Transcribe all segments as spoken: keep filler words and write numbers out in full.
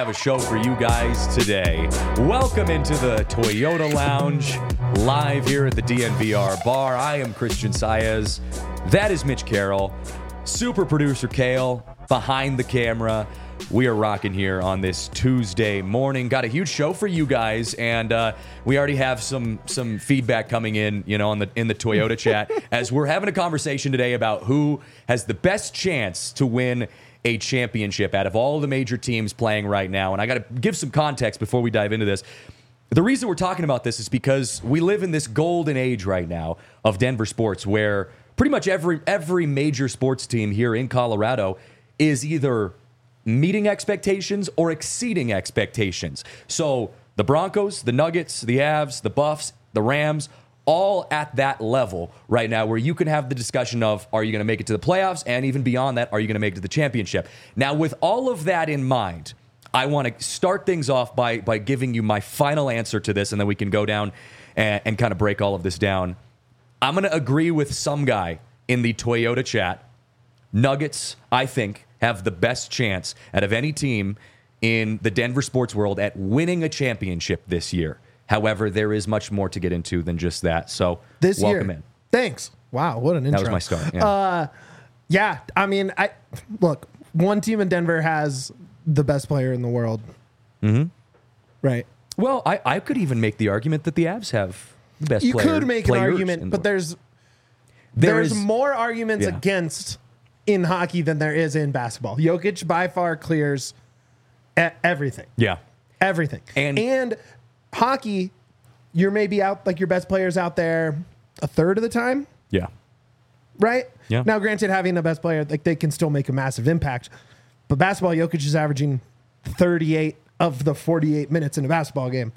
have a show for you guys today. Welcome into the Toyota Lounge, live here at the D N V R bar. I am Christian Saez. That is Mitch Carroll. Super producer Kale behind the camera. We are rocking here on this Tuesday morning. Got a huge show for you guys, and uh, we already have some some feedback coming in, you know, on the in the Toyota chat as we're having a conversation today about who has the best chance to win a championship out of all the major teams playing right now. And I got to give some context before we dive into this. The reason we're talking about this is because we live in this golden age right now of Denver sports, where pretty much every every major sports team here in Colorado is either meeting expectations or exceeding expectations. So the Broncos, the Nuggets, the Avs, the Buffs, the Rams, all at that level right now where you can have the discussion of, are you going to make it to the playoffs? And even beyond that, are you going to make it to the championship? Now, with all of that in mind, I want to start things off by, by giving you my final answer to this, and then we can go down and, and kind of break all of this down. I'm going to agree with some guy in the Toyota chat. Nuggets, I think, have the best chance out of any team in the Denver sports world at winning a championship this year. However, there is much more to get into than just that. So, this welcome year. in. Thanks. Wow, what an intro. That was my start. Yeah. Uh, yeah, I mean, I look, one team in Denver has the best player in the world. Mm-hmm. Right. Well, I, I could even make the argument that the Avs have the best you player. You could make an argument, but there's there there's is, more arguments yeah. against in hockey than there is in basketball. Jokic by far clears everything. Yeah. Everything. And, and hockey, you're maybe out, like your best players out there a third of the time. Yeah. Right? Yeah. Now, granted, having the best player, like they can still make a massive impact. But basketball, Jokic is averaging thirty-eight of the forty-eight minutes in a basketball game.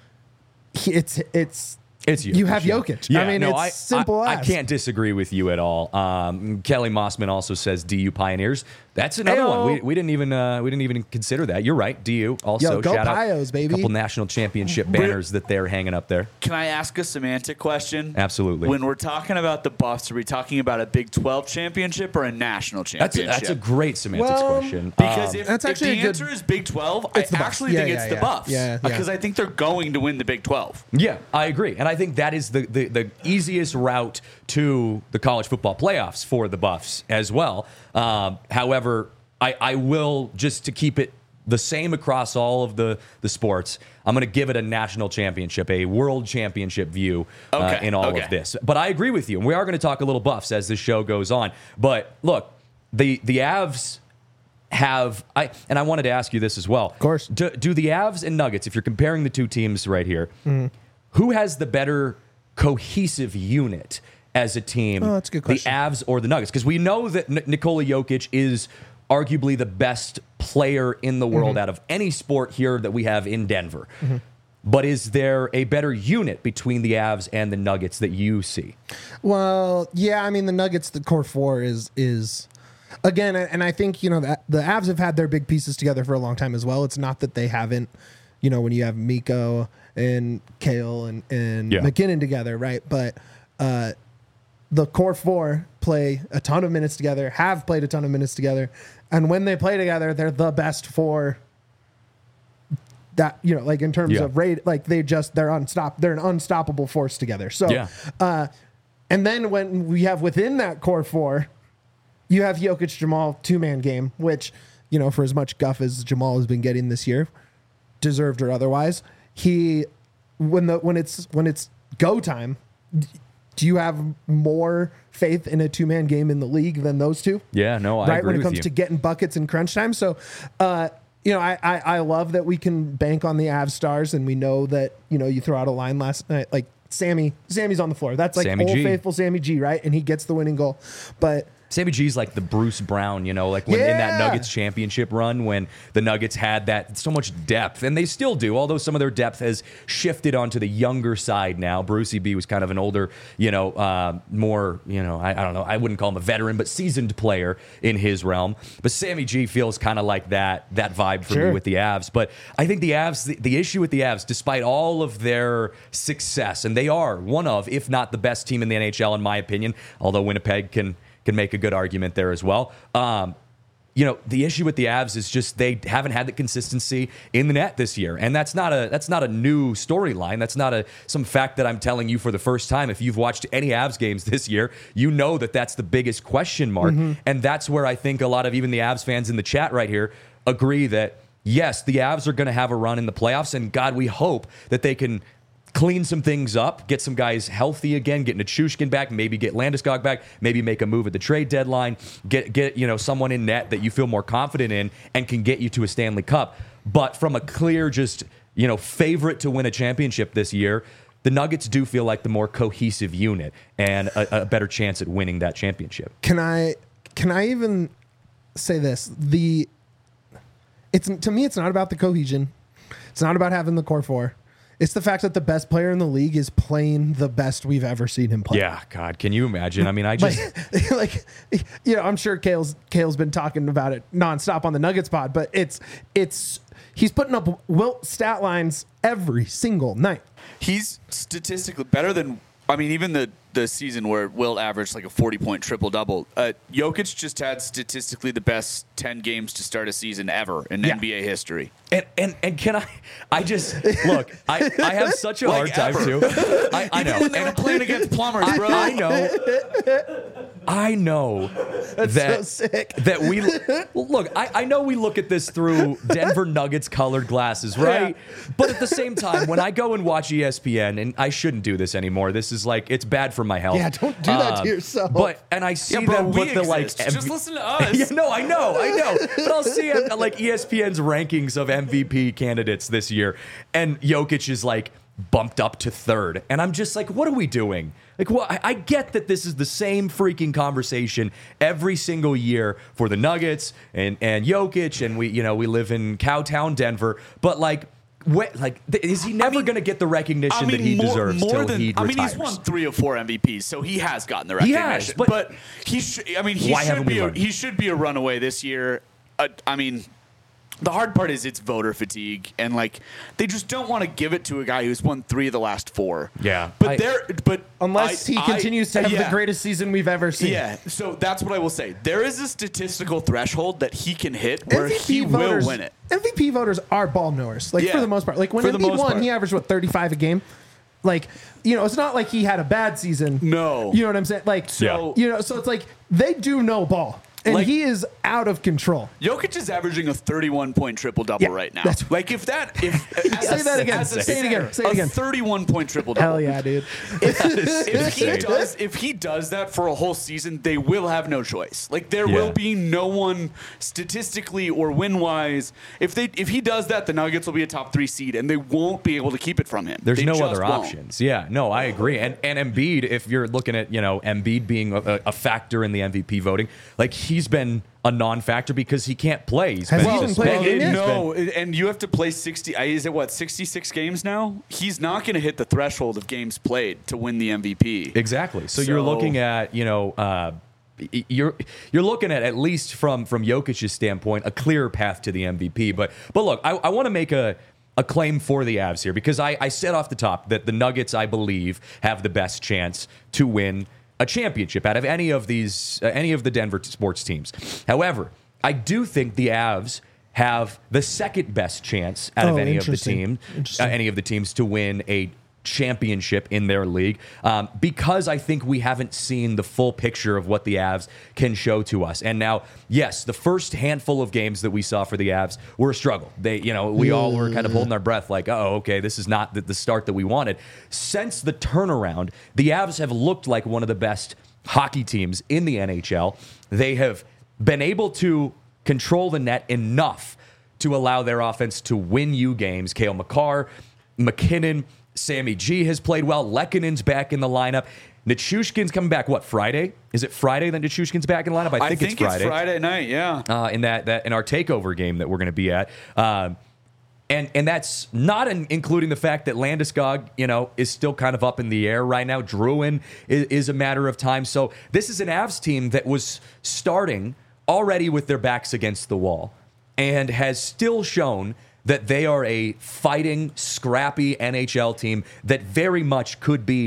It's, it's, It's Jokic, you have yeah. Jokic. Yeah, I mean, no, it's I, simple I, as. I can't disagree with you at all. Um, Kelly Mossman also says D U Pioneers. That's another Ayo. one. We, we didn't even uh, we didn't even consider that. You're right. D U also. Yo, go shout Pios, out baby. a couple national championship banners that they're hanging up there. Can I ask a semantic question? Absolutely. When we're talking about the Buffs, are we talking about a Big twelve championship or a national That's a, championship? that's a great semantics Well, question. Because Um, if, That's if actually the a good- answer is Big twelve, I It's the Buffs. actually Yeah, think yeah, it's yeah. the Buffs. Yeah, yeah. Because I think they're going to win the Big twelve. Yeah, I agree. And I think that is the, the, the easiest route to the college football playoffs for the Buffs as well. Um, however, I, I will, just to keep it the same across all of the, the sports, I'm going to give it a national championship, a world championship view uh, Okay, in all okay. of this. But I agree with you. And we are going to talk a little Buffs as this show goes on. But look, the, the Avs have, I and I wanted to ask you this as well. Of course. Do, do the Avs and Nuggets, if you're comparing the two teams right here, Mm-hmm. who has the better cohesive unit as a team? Oh, that's a good question. The Avs or the Nuggets? Because we know that N- Nikola Jokic is arguably the best player in the world Mm-hmm. out of any sport here that we have in Denver. Mm-hmm. But is there a better unit between the Avs and the Nuggets that you see? Well, yeah, I mean the Nuggets, the core four is is again, and I think you know that the Avs have had their big pieces together for a long time as well. It's not that they haven't, you know, when you have Miko and Kale and and Yeah. McKinnon together, right? But uh, the core four play a ton of minutes together, have played a ton of minutes together, and when they play together, they're the best four. That, you know, like in terms Yeah. of rate, like they just they're unstop they're an unstoppable force together. So, Yeah. uh, and then when we have within that core four, you have Jokic Jamal two man game, which, you know, for as much guff as Jamal has been getting this year, deserved or otherwise, he when the when it's when it's go time, do you have more faith in a two man game in the league than those two? Yeah, no, I right agree when it with comes you. to getting buckets in crunch time. So, uh, you know, I, I I love that we can bank on the Avs stars, and we know that, you know, you throw out a line last night like Sammy Sammy's on the floor. That's like Sammy old G. faithful Sammy G, right? And he gets the winning goal, but. Sammy G's like the Bruce Brown, you know, like when in that Yeah. Nuggets championship run when the Nuggets had that so much depth, and they still do, although some of their depth has shifted onto the younger side now. Brucey B was kind of an older, you know, uh, more, you know, I, I don't know, I wouldn't call him a veteran, but seasoned player in his realm. But Sammy G feels kind of like that that vibe for Sure. me with the Avs. But I think the Avs, the, the issue with the Avs, despite all of their success, and they are one of, if not the best team in the N H L, in my opinion, although Winnipeg can can make a good argument there as well. Um, you know, the issue with the Avs is just they haven't had the consistency in the net this year. And that's not a that's not a new storyline. That's not a some fact that I'm telling you for the first time. If you've watched any Avs games this year, you know that that's the biggest question mark. Mm-hmm. And that's where I think a lot of even the Avs fans in the chat right here agree that, yes, the Avs are going to have a run in the playoffs. And God, we hope that they can clean some things up, get some guys healthy again, get Nichushkin back, maybe get Landeskog back, maybe make a move at the trade deadline, get get you know someone in net that you feel more confident in and can get you to a Stanley Cup. But from a clear, just you know, favorite to win a championship this year, the Nuggets do feel like the more cohesive unit and a, a better chance at winning that championship. Can I can I even say this? The it's to me, it's not about the cohesion. It's not about having the core four. It's the fact that the best player in the league is playing the best we've ever seen him play. Yeah, God, can you imagine? I mean, I just like, like you know, I'm sure Kale's Kale's been talking about it nonstop on the Nuggets pod, but it's it's he's putting up Wilt stat lines every single night. He's statistically better than, I mean, even the, the season where Wilt averaged like a forty-point triple-double. Uh, Jokic just had statistically the best ten games to start a season ever in yeah. N B A history. And, and and can I, I just, look, I, I have such a like hard ever. time, too. I, I know. When they were playing against plumbers, bro. I, I know. I know That's that, so sick. that we, look, I, I know we look at this through Denver Nuggets colored glasses, right? Yeah. But at the same time, when I go and watch E S P N, and I shouldn't do this anymore, this is like, it's bad for my health. Yeah, don't do that um, to yourself. But, and I see yeah, bro, them we put the, like, exist. M V- just listen to us. Yeah, no, I know, I know. But I'll see uh, like E S P N's rankings of M V P candidates this year, and Jokic is like bumped up to third, and I'm just like, what are we doing? Like, well, I, I get that this is the same freaking conversation every single year for the Nuggets and and Jokic, and we, you know, we live in Cowtown, Denver, but like. What, like, th- is he never I mean, going to get the recognition I mean, that he more, deserves more till than, he I retires? mean, he's won three or four M V Ps, so he has gotten the He recognition. has, but, but he, sh- I mean, he why should haven't be we a, learned? he should be a runaway this year. Uh, I mean, the hard part is it's voter fatigue, and like they just don't want to give it to a guy who's won three of the last four. Yeah, but I, there, but unless I, he I, continues to have yeah. the greatest season we've ever seen. Yeah, so that's what I will say. There is a statistical threshold that he can hit where M V P he voters, will win it. M V P voters are ball knowers, like Yeah. for the most part. Like when For the Embiid most won, part. he averaged what thirty-five a game. Like, you know, it's not like he had a bad season. No. You know what I'm saying? Like, So- you know, so it's like they do know ball. And Like- he is out of control. Jokic is averaging a thirty-one point triple double Yeah, right now. that's- like if that, if Say that again. as a Say it again. Say it a again. thirty-one point triple double. Hell yeah, dude. If he insane. does, if he does that for a whole season, they will have no choice. Like there Yeah. will be no one statistically or win wise. If they, if he does that, the Nuggets will be a top three seed, and they won't be able to keep it from him. There's They no just other won't. options. Yeah, no, I agree. And and Embiid, if you're looking at, you know, Embiid being a, a factor in the M V P voting, like he's been a non-factor because he can't play. He's Has been he even played a suspended. game yet? He's No, been- and you have to play sixty. uh, Is it what sixty-six games now? He's not going to hit the threshold of games played to win the M V P. Exactly. So, you're So- looking at, you know, uh, y- you're you're looking at at least from from Jokic's standpoint a clear path to the M V P. But but look, I, I want to make a a claim for the Avs here because I, I said off the top that the Nuggets, I believe, have the best chance to win a championship out of any of these uh, any of the Denver sports teams. However, I do think the Avs have the second best chance out of Oh, any of the interesting. teams, uh, Interesting. any of the teams to win a championship in their league, um, because I think we haven't seen the full picture of what the Avs can show to us. And now, yes, the first handful of games that we saw for the Avs were a struggle. They, you know, we all were kind of holding our breath, like, oh, okay, this is not the, the start that we wanted. Since the turnaround, the Avs have looked like one of the best hockey teams in the N H L. They have been able to control the net enough to allow their offense to win you games. Cale Makar, McKinnon, Sammy G has played well. Lekkonen's back in the lineup. Nichushkin's coming back, what, Friday? Is it Friday that Nichushkin's back in the lineup? I think, I think it's Friday. It's Friday night, yeah. Uh, in that, that in our takeover game that we're going to be at. Um, and and that's not in, including the fact that Landeskog, you know, is still kind of up in the air right now. Druin is, is a matter of time. So this is an Avs team that was starting already with their backs against the wall and has still shown that they are a fighting, scrappy N H L team that very much could be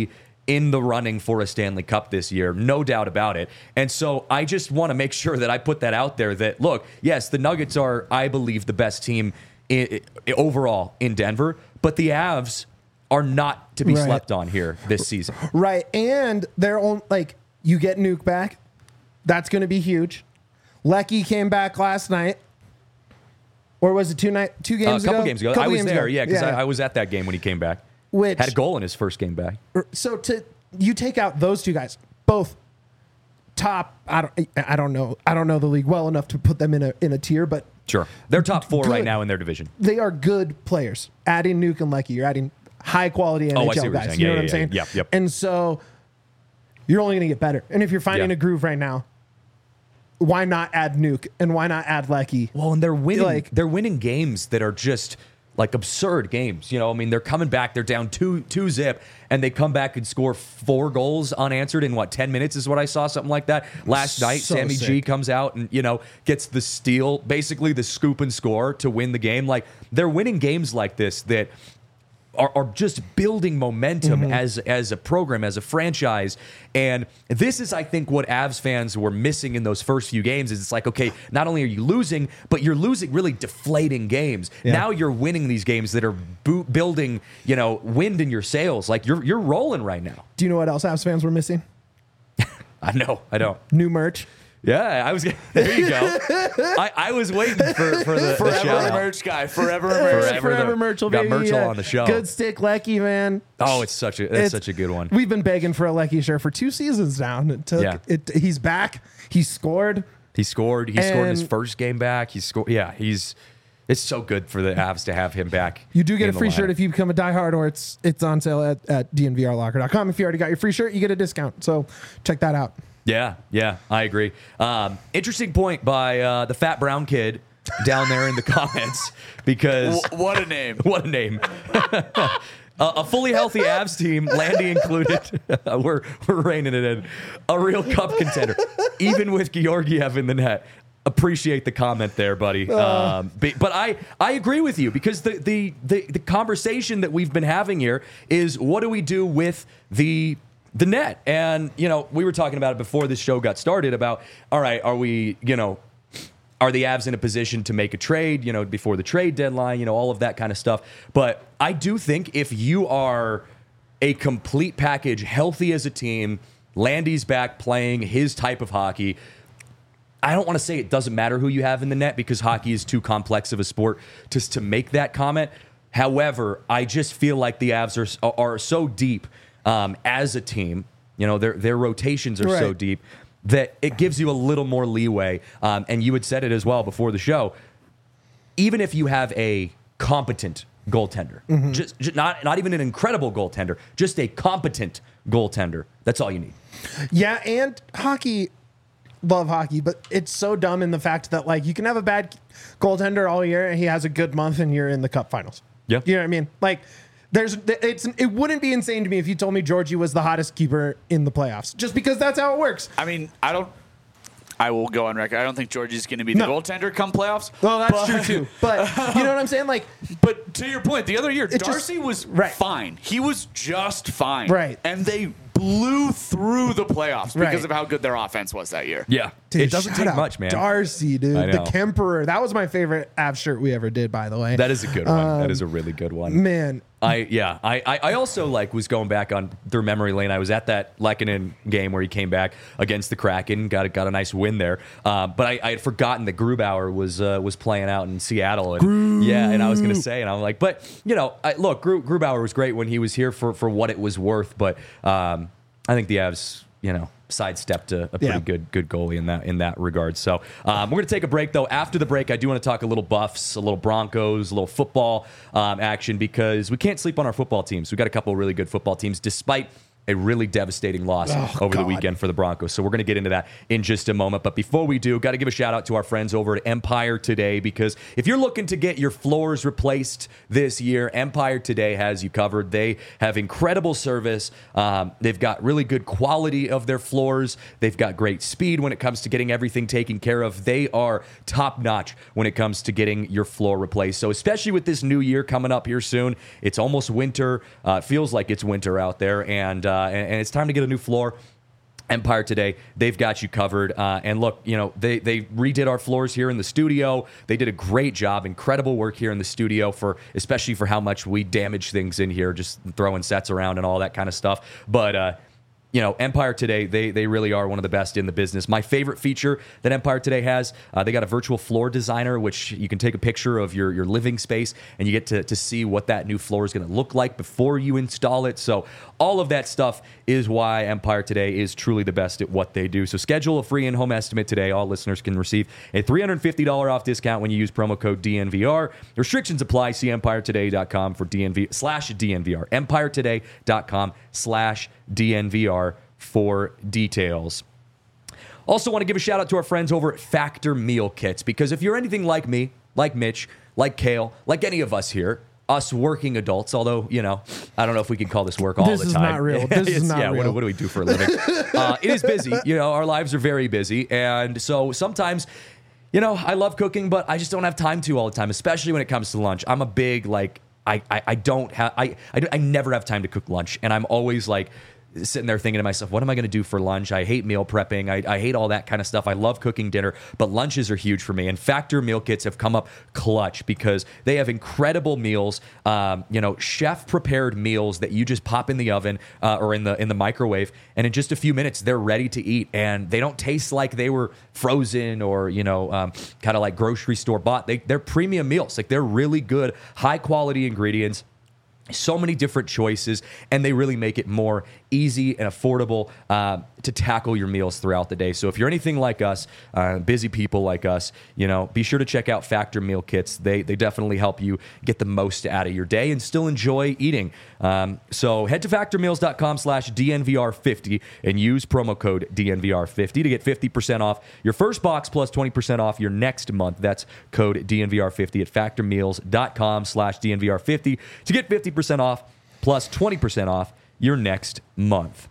in the running for a Stanley Cup this year, no doubt about it. And so I just want to make sure that I put that out there that, look, yes, the Nuggets are, I believe, the best team in, in, overall in Denver, but the Avs are not to be Right. slept on here this season. Right. And they're on, like, you get Nuke back. That's going to be huge. Lecky came back last night. Or was it two night, two Uh, games a couple ago? games ago. Couple I was games there, ago. yeah, because I, I was at that game when he came back. Which, Had a goal in his first game back. so to you take out those two guys, both top. I don't. I don't know. I don't know the league well enough to put them in a in a tier, but Sure. They're top four right Good. now in their division. they are good players. Adding Nuke and Lecky, you're adding high quality N H L Oh, I see what you're guys. saying. You Yeah, know what yeah, I'm saying? yeah. Yep, yep. And so you're only going to get better. And if you're finding Yeah. a groove right now, why not add Nuke and why not add Lecky? Well, and they're winning. Like- they're winning games that are just like absurd games. You know, I mean, they're coming back. They're down two two zip, and they come back and score four goals unanswered in what ten minutes is what I saw, something like that last night. So Sammy G sick. comes out and you know gets the steal, basically the scoop and score to win the game. Like they're winning games like this that are, are just building momentum Mm-hmm. as as a program, as a franchise. And this is, I think, what Avs fans were missing in those first few games. Is it's like, okay, not only are you losing, but you're losing really deflating games. Yeah. Now you're winning these games that are bo- building, you know, wind in your sails. Like you're you're rolling right now. Do you know what else Avs fans were missing? I know, I know. New merch. Yeah, I was. There you go. I, I was waiting for for the, the Forever shout a out. merch guy. Forever a merch. Forever. Forever the- merch. got baby, Merchel yeah. on the show. Good stick, Lecky, man. Oh, it's such a that's It's- such a good one. We've been begging for a Lecky shirt for two seasons now. And it took, Yeah. it, he's back. He scored. He scored. He scored in his And- first game back. He scored. Yeah, he's. It's so good for the Avs to have him back. You do get in a the free lineup. shirt if you become a diehard, or it's it's on sale at, at d n v r locker dot com. If you already got your free shirt, you get a discount. So check that out. Yeah, yeah, I agree. Um, interesting point by uh, the fat brown kid down there in the comments because Wh- what a name. what a name. a, a fully healthy Avs team, Landy included. we're we're reining it in. A real cup contender, even with Georgiev in the net. Appreciate the comment there, buddy. Um, but, but I, I agree with you because the, the the the conversation that we've been having here is what do we do with the the net? And you know, we were talking about it before this show got started about all right, are we, you know, are the Avs in a position to make a trade, you know, before the trade deadline, you know, all of that kind of stuff. But I do think if you are a complete package, healthy as a team, Landy's back playing his type of hockey, I don't want to say it doesn't matter who you have in the net because hockey is too complex of a sport just to make that comment. However, I just feel like the Avs are are so deep um, as a team. You know, their their rotations are so Right. deep that it gives you a little more leeway. Um, and you had said it as well before the show. Even if you have a competent goaltender, Mm-hmm. just, just not not even an incredible goaltender, just a competent goaltender. That's all you need. Yeah, and hockey, love hockey, but it's so dumb in the fact that like you can have a bad goaltender all year and he has a good month and you're in the cup finals. Yeah. You know what I mean? Like there's it's it wouldn't be insane to me if you told me Georgie was the hottest keeper in the playoffs. Just because that's how it works. I mean, I don't. I will go on record. I don't think Georgie's going to be the No. goaltender come playoffs. Well, that's but- true too. But you know what I'm saying? Like But to your point, the other year, just- Darcy was right. fine. He was just fine. Right. And they blew through the playoffs because Right. of how good their offense was that year. Yeah, dude, it doesn't shout take out much, man. Darcy, dude, I the know. Kemperer. That was my favorite Avs shirt we ever did, by the way. That is a good one. that is a really good one. Man, I yeah. I, I I also like was going back on through memory lane. I was at that Lehkonen game where he came back against the Kraken, got a, got a nice win there. Uh, but I, I had forgotten that Grubauer was uh, was playing out in Seattle, and yeah, and I was gonna say, and I'm like, but you know, I, look, Gru, Grubauer was great when he was here for for what it was worth, but um, I think the Avs, you know, sidestepped a, a pretty Yeah. good good goalie in that in that regard. So um, we're gonna take a break though. After the break, I do want to talk a little Buffs, a little Broncos, a little football um, action because we can't sleep on our football teams. We've got a couple of really good football teams, despite a really devastating loss Oh, over the God. weekend for the Broncos. So we're going to get into that in just a moment. But before we do, got to give a shout out to our friends over at Empire Today, because if you're looking to get your floors replaced this year, Empire Today has you covered. They have incredible service. Um, they've got really good quality of their floors. They've got great speed when it comes to getting everything taken care of. They are top notch when it comes to getting your floor replaced. So especially with this new year coming up here soon, it's almost winter. Uh, it feels like it's winter out there. And uh, uh, and, and it's time to get a new floor. Empire Today, they've got you covered. Uh, and look, you know, they, they redid our floors here in the studio. They did a great job, incredible work here in the studio, for especially for how much we damage things in here, just throwing sets around and all that kind of stuff. But, uh, you know, Empire Today, they they really are one of the best in the business. My favorite feature that Empire Today has, uh, they got a virtual floor designer, which you can take a picture of your, your living space, and you get to, to see what that new floor is going to look like before you install it. So all of that stuff is why Empire Today is truly the best at what they do. So schedule a free in-home estimate today. All listeners can receive a three hundred fifty dollars off discount when you use promo code D N V R. Restrictions apply. See empire today dot com for D N V slash D N V R. empire today dot com slash D N V R for details. Also want to give a shout out to our friends over at Factor Meal Kits, because if you're anything like me, like Mitch, like Kale, like any of us here, us working adults, although, you know, I don't know if we can call this work all This the is time. not real. This is It's- not yeah, what, real. what do we do for a living? uh, it is busy. You know, our lives are very busy. And so sometimes, you know, I love cooking, but I just don't have time to all the time, especially when it comes to lunch. I'm a big, like, I, I, I don't have, I, I, I never have time to cook lunch. And I'm always like, sitting there thinking to myself, what am I going to do for lunch? I hate meal prepping. I, I hate all that kind of stuff. I love cooking dinner, but lunches are huge for me. And Factor Meal Kits have come up clutch because they have incredible meals, um, you know, chef-prepared meals that you just pop in the oven uh, or in the in the microwave, and in just a few minutes, they're ready to eat. And they don't taste like they were frozen or, you know, um, kind of like grocery store bought. They, they're premium meals. Like, they're really good, high-quality ingredients. So many different choices, and they really make it more easy and affordable uh, to tackle your meals throughout the day. So if you're anything like us, uh, busy people like us, you know, be sure to check out Factor Meal Kits. They they definitely help you get the most out of your day and still enjoy eating. Um, so head to factor meals dot com slash D N V R fifty and use promo code D N V R fifty to get fifty percent off your first box plus twenty percent off your next month. That's code D N V R fifty at factor meals dot com slash D N V R fifty to get fifty percent off plus twenty percent off your next month.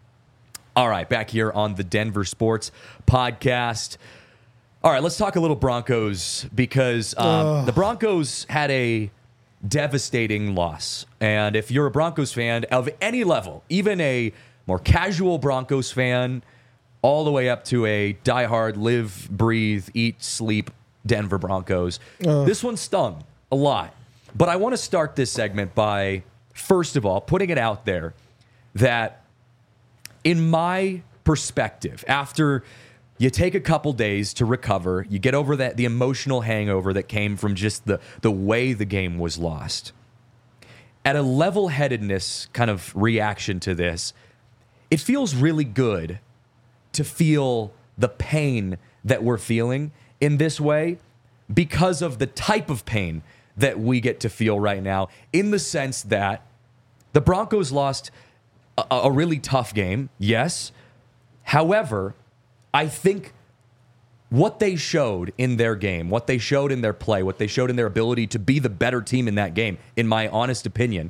All right, back here on the Denver Sports Podcast. All right, let's talk a little Broncos, because um, the Broncos had a devastating loss. And if you're a Broncos fan of any level, even a more casual Broncos fan, all the way up to a diehard live, breathe, eat, sleep Denver Broncos, this one stung a lot. But I want to start this segment by, first of all, putting it out there that in my perspective, after you take a couple days to recover, you get over that the emotional hangover that came from just the, the way the game was lost. At a level-headedness kind of reaction to this, it feels really good to feel the pain that we're feeling in this way because of the type of pain that we get to feel right now, in the sense that the Broncos lost a, a really tough game, yes. However, I think what they showed in their game, what they showed in their play, what they showed in their ability to be the better team in that game, in my honest opinion,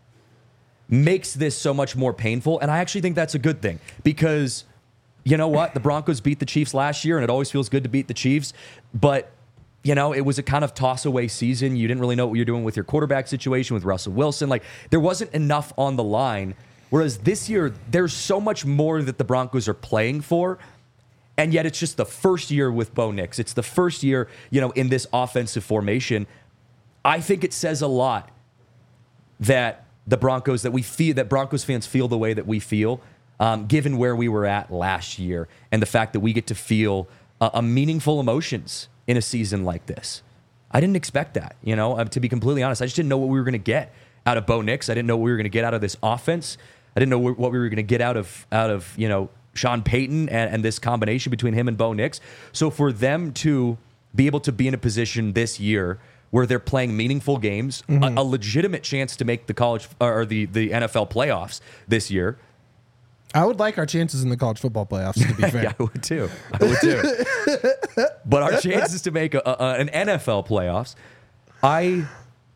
makes this so much more painful. And I actually think that's a good thing, because you know what? The Broncos beat the Chiefs last year, and it always feels good to beat the Chiefs. But, you know, it was a kind of toss-away season. You didn't really know what you're doing with your quarterback situation with Russell Wilson. Like, there wasn't enough on the line. Whereas this year, there's so much more that the Broncos are playing for. And yet it's just the first year with Bo Nix. It's the first year, you know, in this offensive formation. I think it says a lot that the Broncos, that we feel, that Broncos fans feel the way that we feel, um, given where we were at last year, and the fact that we get to feel uh, a meaningful emotions in a season like this. I didn't expect that, you know, um, to be completely honest. I just didn't know what we were going to get out of Bo Nix. I didn't know what we were going to get out of this offense. I didn't know what we were going to get out of, out of, you know, Sean Payton and, and this combination between him and Bo Nix. So for them to be able to be in a position this year where they're playing meaningful games, mm-hmm. a, a legitimate chance to make the college or the, the N F L playoffs this year. I would like our chances in the college football playoffs, to be fair. Yeah, I would too. I would too. But our chances to make a, a, an N F L playoffs, I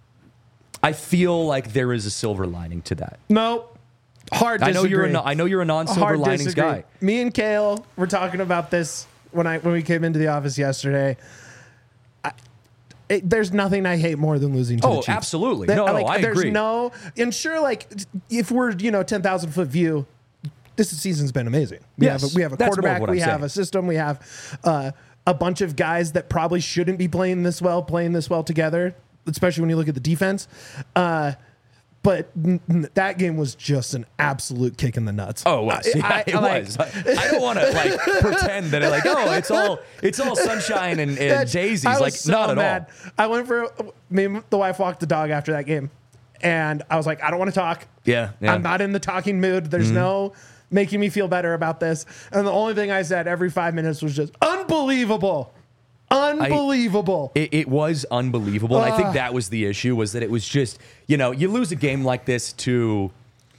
I feel like there is a silver lining to that. No. Hard disagree. I know you're a, I know you're a non-silver Hard linings disagree. guy. Me and Kale were talking about this when I when we came into the office yesterday. I, it, there's nothing I hate more than losing to Oh, the Chiefs. absolutely. That- No, no, like, I there's agree. no, and sure, like if we're you know ten thousand foot view, this season's been amazing. We Yes, have a, we have a that's more of quarterback, what we I'm have saying. a system, we have uh, a bunch of guys that probably shouldn't be playing this well, playing this well together, especially when you look at the defense. Uh, But n- n- that game was just an absolute kick in the nuts. Oh, it was. I- Yeah, I- it like- was. I, I don't want to like pretend that it like, oh, it's all it's all sunshine and, and That's- daisies. I was Like, so not at mad. all. I went for me and the wife walked the dog after that game, and I was like, I don't want to talk. Yeah, yeah. I'm not in the talking mood. There's no making me feel better about this. And the only thing I said every five minutes was just unbelievable, unbelievable. It, it was unbelievable. And I think Ugh. that was the issue, was that it was just, you know, you lose a game like this to,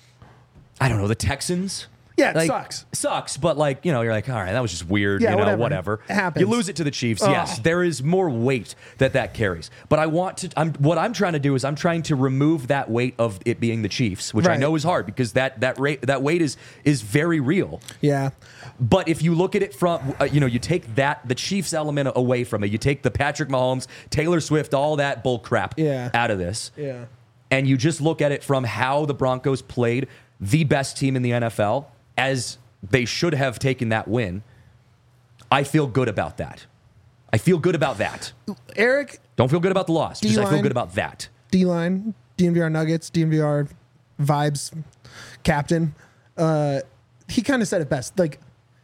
I don't know, the Texans. Yeah, it Like, sucks. Sucks, but like, you know, you're like, all right, that was just weird, Yeah, you know, whatever. whatever. It happens. You lose it to the Chiefs, Ugh. yes. There is more weight that that carries. But I want to, I'm, what I'm trying to do is I'm trying to remove that weight of it being the Chiefs, which I Right. know is hard because that that rate, that weight is is very real. Yeah. But if you look at it from, uh, you know, you take that, the Chiefs element away from it, you take the Patrick Mahomes, Taylor Swift, all that bull crap Yeah. out of this, Yeah. and you just look at it from how the Broncos played the best team in the N F L, as they should have taken that win, I feel good about that. I feel good about that. Eric, Don't feel good about the loss, just I feel D-line. good about that. D-line, D N V R Nuggets, D N V R vibes captain. Uh, he kind of said it best. Like,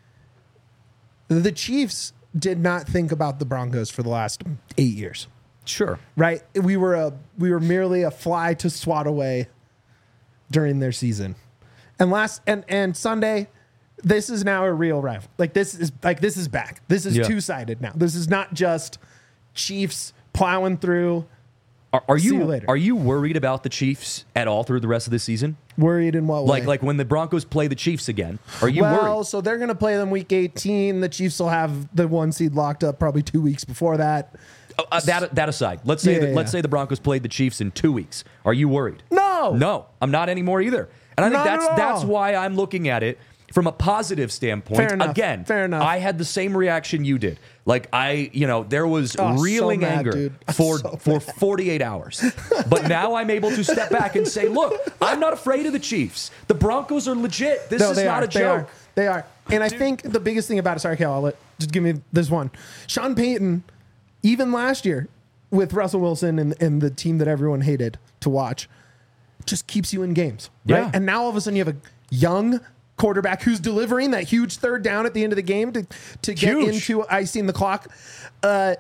the Chiefs did not think about the Broncos for the last eight years, Sure. right? We were a we were merely a fly to swat away during their season. And last and and Sunday, this is now a real rival. Like this is like this is back. This is Yeah. two-sided now. This is not just Chiefs plowing through. Are, are See you, you later. are you worried about the Chiefs at all through the rest of the season? Worried in what way? Like like when the Broncos play the Chiefs again, are you well, worried? so they're going to play them week eighteen. The Chiefs will have the one seed locked up probably two weeks before that. Uh, uh, that that aside, let's say Yeah, that, yeah, let's yeah. say the Broncos played the Chiefs in two weeks. Are you worried? No. No, I'm not anymore either. And I think Not that's at all. that's why I'm looking at it from a positive standpoint. Fair enough. Again, Fair enough. I had the same reaction you did. Like I, you know, there was Oh, so reeling mad, anger dude. I'm for so for forty-eight hours. But now I'm able to step back and say, look, I'm not afraid of the Chiefs. The Broncos are legit. This No, is they not are. a They joke. are. They are. And I think the biggest thing about it, sorry, Cal, I'll let, just give me this one. Sean Payton, even last year with Russell Wilson and, and the team that everyone hated to watch, just keeps you in games. Right? Yeah. And now all of a sudden you have a young quarterback who's delivering that huge third down at the end of the game to, to get Huge. into icing the clock. Uh,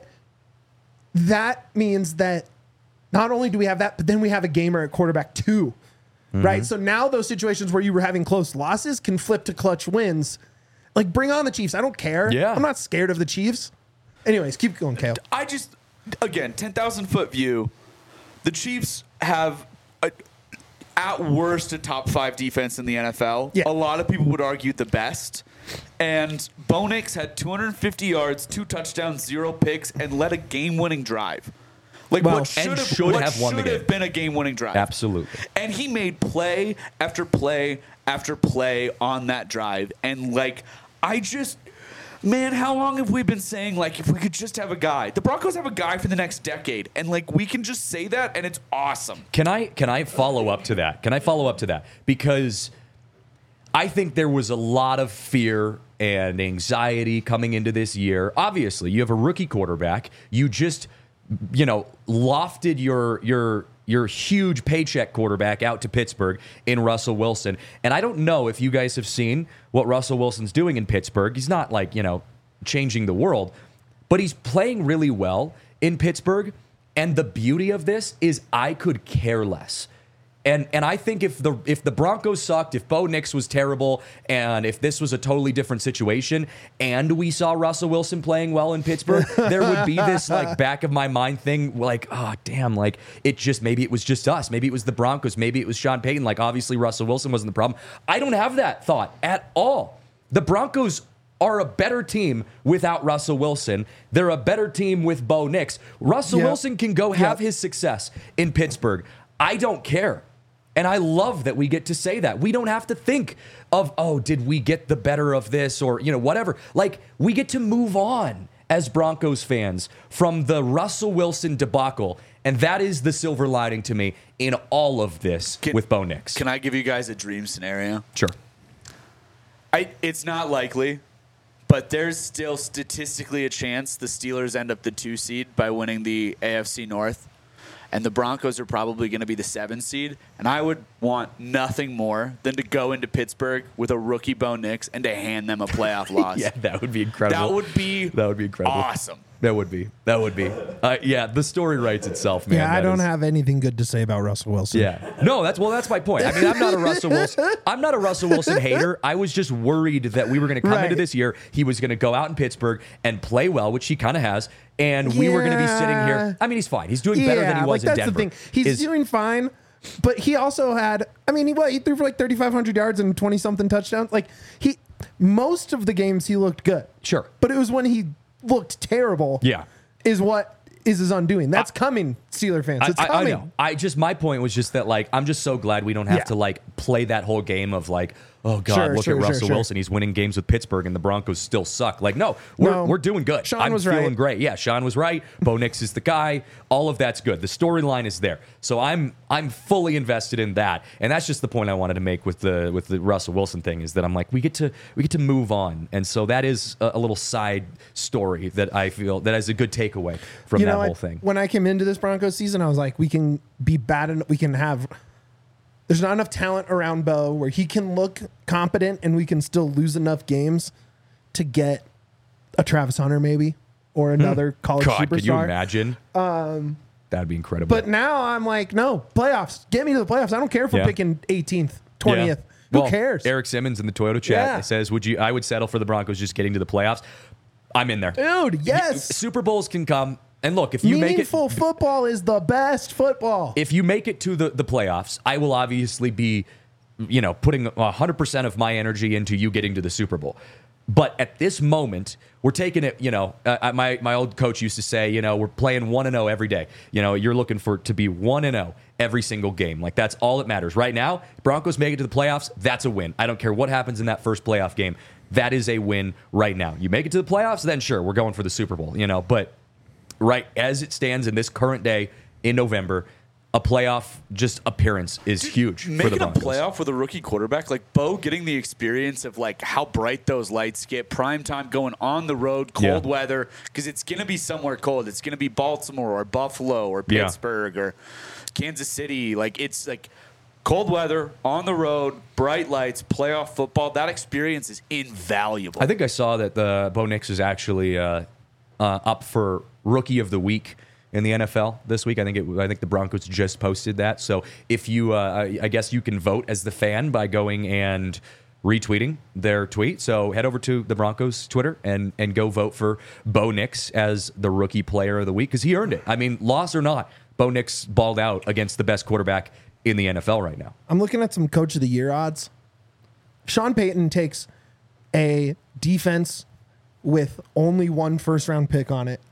that means that not only do we have that, but then we have a gamer at quarterback too. Right? So now those situations where you were having close losses can flip to clutch wins. Like, bring on the Chiefs. I don't care. Yeah. I'm not scared of the Chiefs. Anyways, keep going, Kale. I just, again, ten thousand foot view. The Chiefs have, a, at worst, a top five defense in the N F L. Yeah. A lot of people would argue the best. And Bo Nix had two hundred fifty yards, two touchdowns, zero picks, and led a game-winning drive. Like Well, what should and have, should what have won the should game. have been a game-winning drive. Absolutely. And he made play after play after play on that drive. And, like, I just, man, how long have we been saying, like, if we could just have a guy? The Broncos have a guy for the next decade. And, like, we can just say that, and it's awesome. Can I can I follow up to that? Can I follow up to that? Because I think there was a lot of fear and anxiety coming into this year. Obviously, you have a rookie quarterback. You just, you know, lofted your your your huge paycheck quarterback out to Pittsburgh in Russell Wilson. And I don't know if you guys have seen what Russell Wilson's doing in Pittsburgh. He's not like, you know, changing the world, but he's playing really well in Pittsburgh. And the beauty of this is I could care less. And and I think if the if the Broncos sucked, if Bo Nix was terrible, and if this was a totally different situation, and we saw Russell Wilson playing well in Pittsburgh, there would be this like back of my mind thing, like, oh damn, like it just maybe it was just us, maybe it was the Broncos, maybe it was Sean Payton. Like obviously Russell Wilson wasn't the problem. I don't have that thought at all. The Broncos are a better team without Russell Wilson. They're a better team with Bo Nix. Russell Yeah. Wilson can go have Yeah. his success in Pittsburgh. I don't care. And I love that we get to say that. We don't have to think of, oh, did we get the better of this or, you know, whatever. Like, we get to move on as Broncos fans from the Russell Wilson debacle. And that is the silver lining to me in all of this Can- with Bo Nix. Can I give you guys a dream scenario? Sure. I, it's not likely, but there's still statistically a chance the Steelers end up the two seed by winning the A F C North, and the Broncos are probably going to be the seven seed. And I would want nothing more than to go into Pittsburgh with a rookie Bo Nix and to hand them a playoff loss. Yeah, that would be incredible. That would be That would be incredible. awesome. That would be. That would be. Uh, yeah, the story writes itself, man. Yeah, I That don't is- have anything good to say about Russell Wilson. Yeah. No, that's well, that's my point. I mean, I'm not a Russell Wilson. I'm not a Russell Wilson hater. I was just worried that we were going to come Right. into this year. He was going to go out in Pittsburgh and play well, which he kind of has, and we were going to be sitting here. I mean, he's fine. He's doing better than he was like in that's Denver. the thing. He's Is- doing fine, but he also had. I mean, he what he threw for like thirty-five hundred yards and twenty something touchdowns. Like he, most of the games he looked good. Sure. But it was when he looked terrible. Yeah. Is what is his undoing. That's coming, Steeler fans. It's I, I, I coming. know. I just my point was just that like I'm just so glad we don't have Yeah. to like play that whole game of like, oh God, Sure, look sure, at sure, Russell sure. Wilson. He's winning games with Pittsburgh and the Broncos still suck. Like, no, we're No. we're doing good. Sean I'm was feeling right. great. Yeah, Sean was right. Bo Nix is the guy. All of that's good. The storyline is there. So I'm I'm fully invested in that. And that's just the point I wanted to make with the with the Russell Wilson thing is that I'm like, we get to we get to move on. And so that is a, a little side story that I feel that is a good takeaway from You that know, I- whole thing. when I came into this Broncos season, I was like, we can be bad and we can have. There's not enough talent around Bo where he can look competent and we can still lose enough games to get a Travis Hunter maybe or another college Hmm. God, superstar. could you imagine? Um, That'd be incredible. But now I'm like, no, playoffs. Get me to the playoffs. I don't care if we're Yeah. picking eighteenth, twentieth. Yeah. Who Well, cares? Eric Simmons in the Toyota chat Yeah. says, "Would you? I would settle for the Broncos just getting to the playoffs. I'm in there. Dude, yes. Super Bowls can come, and look, if you make it, Meaningful football is the best football. if you make it to the the playoffs, I will obviously be, you know, putting one hundred percent of my energy into you getting to the Super Bowl. But at this moment, we're taking it, you know, uh, my, my old coach used to say, you know, we're playing one and oh every day. You know, you're looking for to be one and oh every single game. Like, that's all that matters. Right now, Broncos make it to the playoffs, that's a win. I don't care what happens in that first playoff game. That is a win right now. You make it to the playoffs, then sure, we're going for the Super Bowl, you know. But right as it stands in this current day in November, a playoff just appearance is huge for the Making a Broncos. playoff with a rookie quarterback like Bo, getting the experience of like how bright those lights get, prime time, going on the road, cold Yeah. weather, because it's gonna be somewhere cold. It's gonna be Baltimore or Buffalo or Yeah. Pittsburgh or Kansas City. Like it's like cold weather on the road, bright lights, playoff football. That experience is invaluable. I think I saw that the Bo Nix is actually uh, uh, up for Rookie of the Week in the N F L this week. I think it. I think the Broncos just posted that. So if you, uh, I I guess you can vote as the fan by going and retweeting their tweet. So head over to the Broncos Twitter and and go vote for Bo Nix as the Rookie Player of the Week because he earned it. I mean, loss or not, Bo Nix balled out against the best quarterback in the N F L right now. I'm looking at some Coach of the Year odds. Sean Payton takes a defense with only one first round pick on it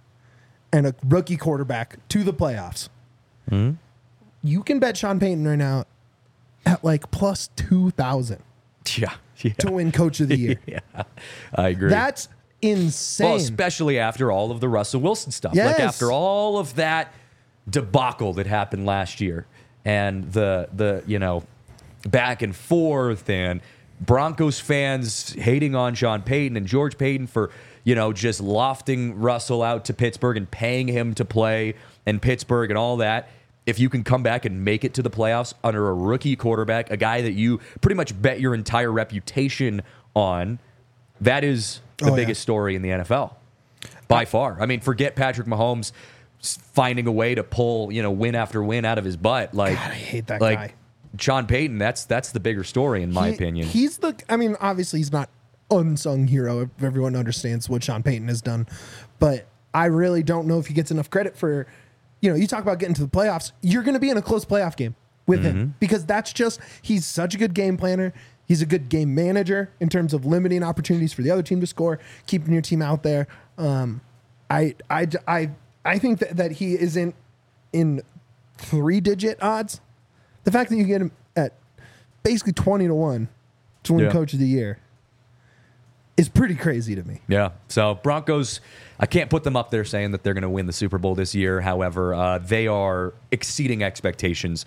and a rookie quarterback to the playoffs. Mm-hmm. You can bet Sean Payton right now at like plus two thousand Yeah, yeah, to win Coach of the Year. yeah. I agree. That's insane. Well, especially after all of the Russell Wilson stuff. Like Yes. after all of that debacle that happened last year and the the, you know, back and forth and Broncos fans hating on Sean Payton and George Payton for, you know, just lofting Russell out to Pittsburgh and paying him to play in Pittsburgh and all that. If you can come back and make it to the playoffs under a rookie quarterback, a guy that you pretty much bet your entire reputation on, that is the Oh, yeah. biggest story in the N F L by far. I mean, forget Patrick Mahomes s- finding a way to pull, you know, win after win out of his butt. Like, God, I hate that like guy. Sean Payton, that's that's the bigger story in my He- opinion. He's the, I mean, obviously he's not unsung hero. If everyone understands what Sean Payton has done, but I really don't know if he gets enough credit for, you know, you talk about getting to the playoffs. You're going to be in a close playoff game with him because that's just, he's such a good game planner. He's a good game manager in terms of limiting opportunities for the other team to score, keeping your team out there. Um, I, I, I, I think that, that he isn't in three digit odds. The fact that you get him at basically twenty to one to win Yeah. Coach of the Year is pretty crazy to me. Yeah. So Broncos, I can't put them up there saying that they're going to win the Super Bowl this year. However, uh, they are exceeding expectations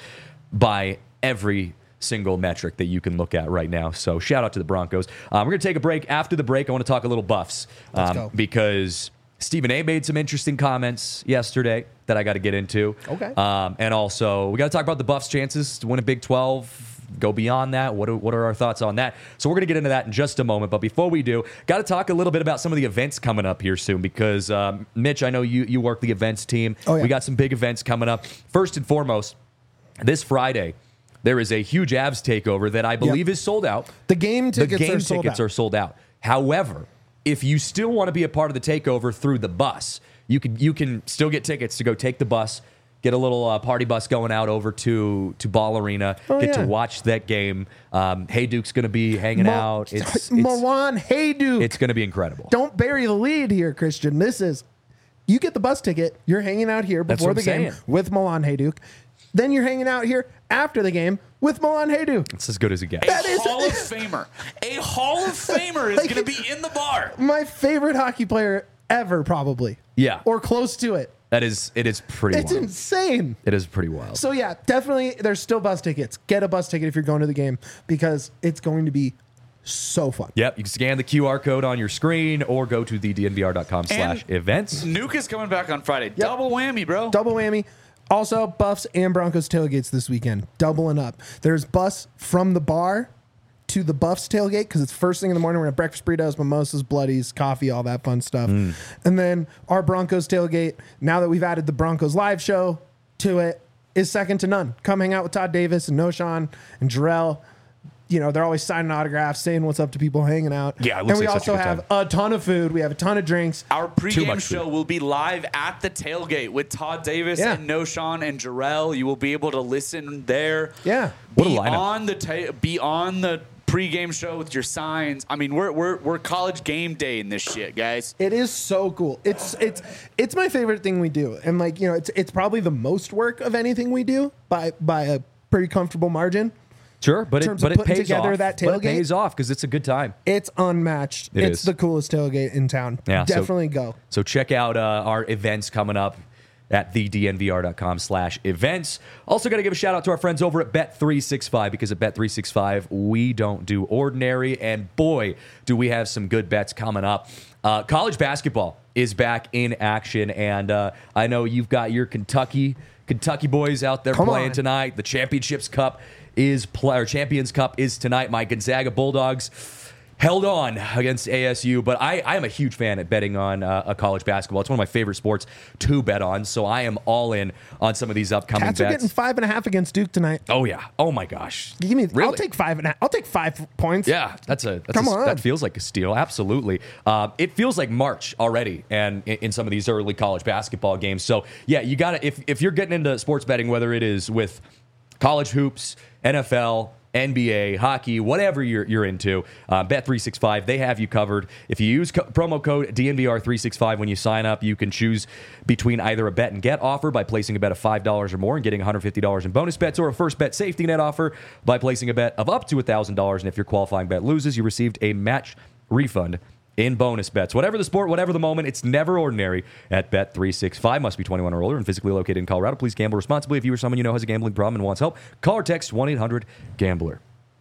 by every single metric that you can look at right now. So shout out to the Broncos. Um, we're going to take a break. After the break, I want to talk a little Buffs um, Let's go. because Stephen A made some interesting comments yesterday that I got to get into. Okay. Um, and also, we got to talk about the Buffs' chances to win a Big twelve. Go beyond that. What are, what are our thoughts on that? So we're going to get into that in just a moment. But before we do, got to talk a little bit about some of the events coming up here soon because, um, Mitch, I know you, you work the events team. Oh, yeah. We got some big events coming up. First and foremost, this Friday, there is a huge Avs takeover that I believe Yep. is sold out. The game tickets the game are sold tickets out. are sold out. However, if you still want to be a part of the takeover through the bus, you can you can still get tickets to go take the bus, get a little uh, party bus going out over to to Ball Arena, Oh, get yeah. to watch that game. Um, Hey Duke's going to be hanging Mo- out. It's it's, Milan Hayduk. it's going to be incredible. Don't bury the lead here, Christian. This is, you get the bus ticket. You're hanging out here That's before what the I'm game saying. with Milan Hayduk. Then you're hanging out here after the game with Milan Hayduk. It's as good as it gets. That a is- Hall of Famer. A Hall of Famer is Like- going to be in the bar. My favorite hockey player ever, probably. Yeah. Or close to it. That is it is pretty It's wild. insane. It is pretty wild. So yeah, definitely there's still bus tickets. Get a bus ticket if you're going to the game because it's going to be so fun. Yep, you can scan the Q R code on your screen or go to the D N V R dot com slash events. Nuke is coming back on Friday. Double whammy, bro. Double whammy. Also, Buffs and Broncos tailgates this weekend. Doubling up. There's bus from the bar to the Buffs tailgate because it's first thing in the morning. We're going to have breakfast burritos, mimosas, bloodies, coffee, all that fun stuff. Mm. And then our Broncos tailgate, now that we've added the Broncos live show to it, is second to none. Come hang out with Todd Davis and Noshawn and Jarrell. You know, they're always signing autographs, saying what's up to people hanging out. Yeah, it looks and we like such a also good have time. a ton of food. We have a ton of drinks. Our Too pregame much food. show will be live at the tailgate with Todd Davis Yeah. and Noshawn and Jarrell. You will be able to listen there. Yeah. What a be lineup. on the ta- be on the pregame show with your signs. I mean, we're we're we're college game day in this shit, guys. It is so cool. It's it's it's my favorite thing we do, and like you know, it's it's probably the most work of anything we do by by a pretty comfortable margin. Sure, but in it terms but of it putting pays together off. that But it tailgate. pays off because it's a good time. It's unmatched. It it's is. the coolest tailgate in town. Yeah, so- Definitely go. So check out uh, our events coming up at the D N V R dot com slash events. Also got to give a shout out to our friends over at Bet three sixty-five because at Bet three sixty-five, we don't do ordinary. And boy, do we have some good bets coming up. Uh, college basketball is back in action. And uh, I know you've got your Kentucky Kentucky boys out there Come playing on. tonight. The Championships Cup is play, or Champions Cup is tonight. My Gonzaga Bulldogs held on against A S U, but I, I am a huge fan at betting on uh, a college basketball. It's one of my favorite sports to bet on, so I am all in on some of these upcoming Cats are bets. getting five and a half against Duke tonight. Oh yeah! Oh my gosh! Give me. Really? I'll take five and a half. I'll take five points. Yeah, that's a that's Come a, on. that feels like a steal. Absolutely. Uh, it feels like March already, and in, in some of these early college basketball games. So yeah, you got to if if you're getting into sports betting, whether it is with college hoops, N F L, N B A, hockey, whatever you're you're into, uh, Bet three sixty-five, they have you covered. If you use co- promo code D N V R three sixty-five when you sign up, you can choose between either a bet and get offer by placing a bet of five dollars or more and getting one hundred fifty dollars in bonus bets, or a first bet safety net offer by placing a bet of up to one thousand dollars. And if your qualifying bet loses, you received a match refund in bonus bets. Whatever the sport, whatever the moment, it's never ordinary at Bet three sixty-five. Must be twenty-one or older and physically located in Colorado. Please gamble responsibly. If you or someone you know has a gambling problem and wants help, call or text one eight hundred gambler.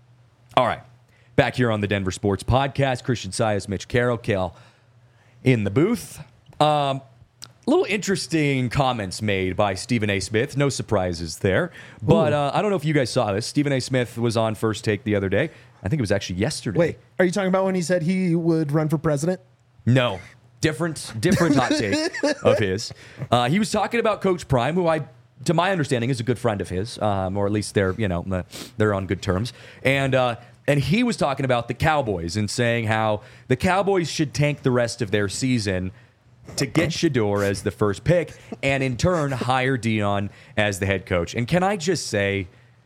All right. Back here on the Denver Sports Podcast, Christian Sias, Mitch Carroll, Kale in the booth. Um, little interesting comments made by Stephen A. Smith. No surprises there. But uh, I don't know if you guys saw this. Stephen A. Smith was on First Take the other day. I think it was actually yesterday. Wait, are you talking about when he said he would run for president? No. Different, different hot take of his. Uh, he was talking about Coach Prime, who I, to my understanding, is a good friend of his, um, or at least they're, you know, uh, they're on good terms. And uh, and he was talking about the Cowboys and saying how the Cowboys should tank the rest of their season to get Shador as the first pick, and in turn hire Dion as the head coach. And can I just say,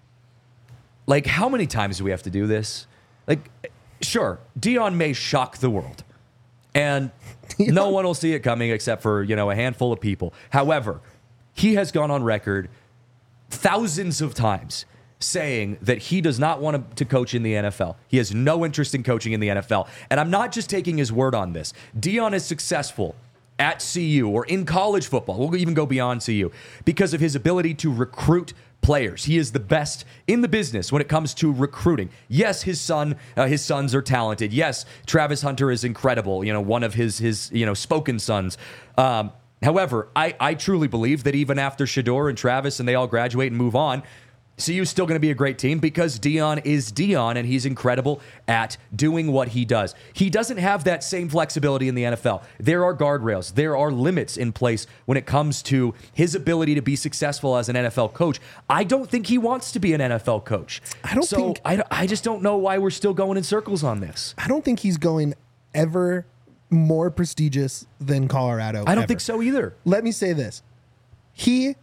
like, how many times do we have to do this? Like, sure, Dion may shock the world. And no one will see it coming except for, you know, a handful of people. However, he has gone on record thousands of times saying that he does not want to coach in the N F L. He has no interest in coaching in the N F L. And I'm not just taking his word on this. Deion is successful at C U or in college football. We'll even go beyond C U because of his ability to recruit players. He is the best in the business when it comes to recruiting. Yes, his son, uh, his sons are talented. Yes, Travis Hunter is incredible. You know, one of his his you know spoken sons. Um, however, I I truly believe that even after Shedeur and Travis and they all graduate and move on, C U is still going to be a great team because Deion is Deion and he's incredible at doing what he does. He doesn't have that same flexibility in the N F L. There are guardrails. There are limits in place when it comes to his ability to be successful as an N F L coach. I don't think he wants to be an N F L coach. I don't so think... I, I just don't know why we're still going in circles on this. I don't think he's going ever more prestigious than Colorado. I don't ever. think so either. Let me say this. He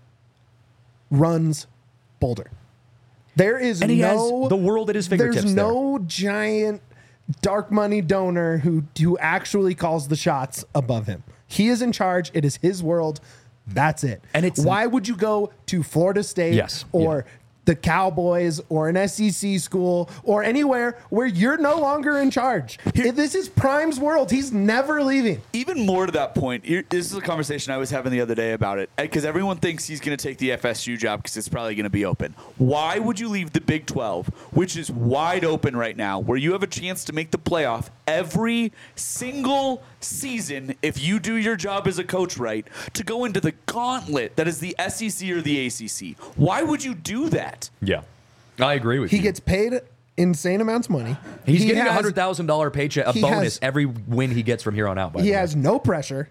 runs Boulder. There is And he no has the world at his fingertips. There's no giant dark money donor who who actually calls the shots above him. He is in charge. It is his world. That's it. And it's why would you go to Florida State Yes, or yeah. the Cowboys or an S E C school or anywhere where you're no longer in charge? This is Prime's world. He's never leaving. Even more to that point, here- this is a conversation I was having the other day about it, because everyone thinks he's going to take the F S U job because it's probably going to be open. Why would you leave the Big twelve, which is wide open right now, where you have a chance to make the playoff every single season if you do your job as a coach right, to go into the gauntlet that is the S E C or the A C C? Why would you do that? Yeah, I agree with He you. gets paid insane amounts of money. He's He getting a has- hundred thousand dollar paycheck, a he bonus has- every win he gets from here on out. By He the way. has no pressure.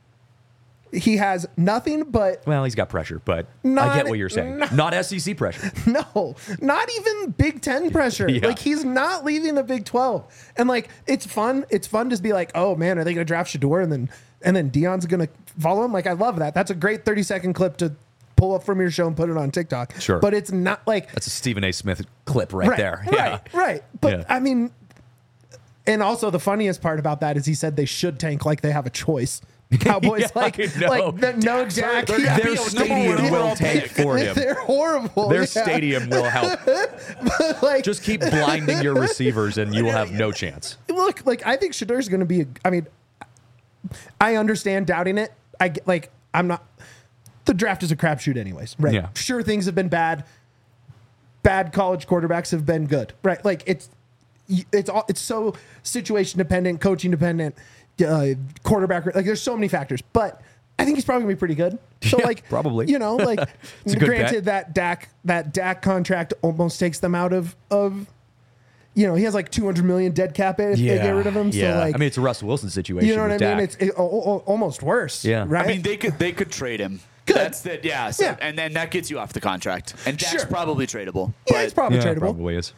He has nothing but Well, he's got pressure, but I Not- get what you're saying. not- Not S E C pressure. no, not even Big Ten pressure. Yeah. Like he's not leaving the Big twelve, and like it's fun. It's fun to be like, oh man, are they going to draft Shedeur and then and then Deion's going to follow him? Like I love that. That's a great thirty second clip to pull up from your show and put it on TikTok. Sure. but it's not like That's a Stephen A. Smith clip right, right, there. right, Yeah. right. But Yeah. I mean, and also the funniest part about that is he said they should tank like they have a choice. Cowboys Yeah, like I know. like the, no Jack. Their- yeah. Their Yeah, stadium number one will overall tank pick. for him. They're horrible. Their yeah. stadium will help. like Just keep blinding your receivers, and you will have no chance. look, like I think Shadeur's going to be. A, I mean, I understand doubting it. I get- like. I'm not. The draft is a crapshoot, anyways. Right? Yeah. Sure, things have been bad. Bad college quarterbacks have been good. Right? Like it's it's all it's so situation dependent, coaching dependent, uh, quarterback. Like there's so many factors, but I think he's probably gonna be pretty good. So Yeah, like probably. you know, like It's a good granted bet. that Dak that Dak contract almost takes them out of of. You know, he has like two hundred million dead cap if they get rid of him. Yeah. So like, I mean, it's a Russell Wilson situation. you know what I with mean? Dak. It's it, o- o- almost worse. Yeah. Right. I mean, they could they could trade him. Good. That's the yeah. So, Yeah. And then that gets you off the contract. And Dak's Sure. probably tradable. yeah, but it's probably yeah, tradable. probably is.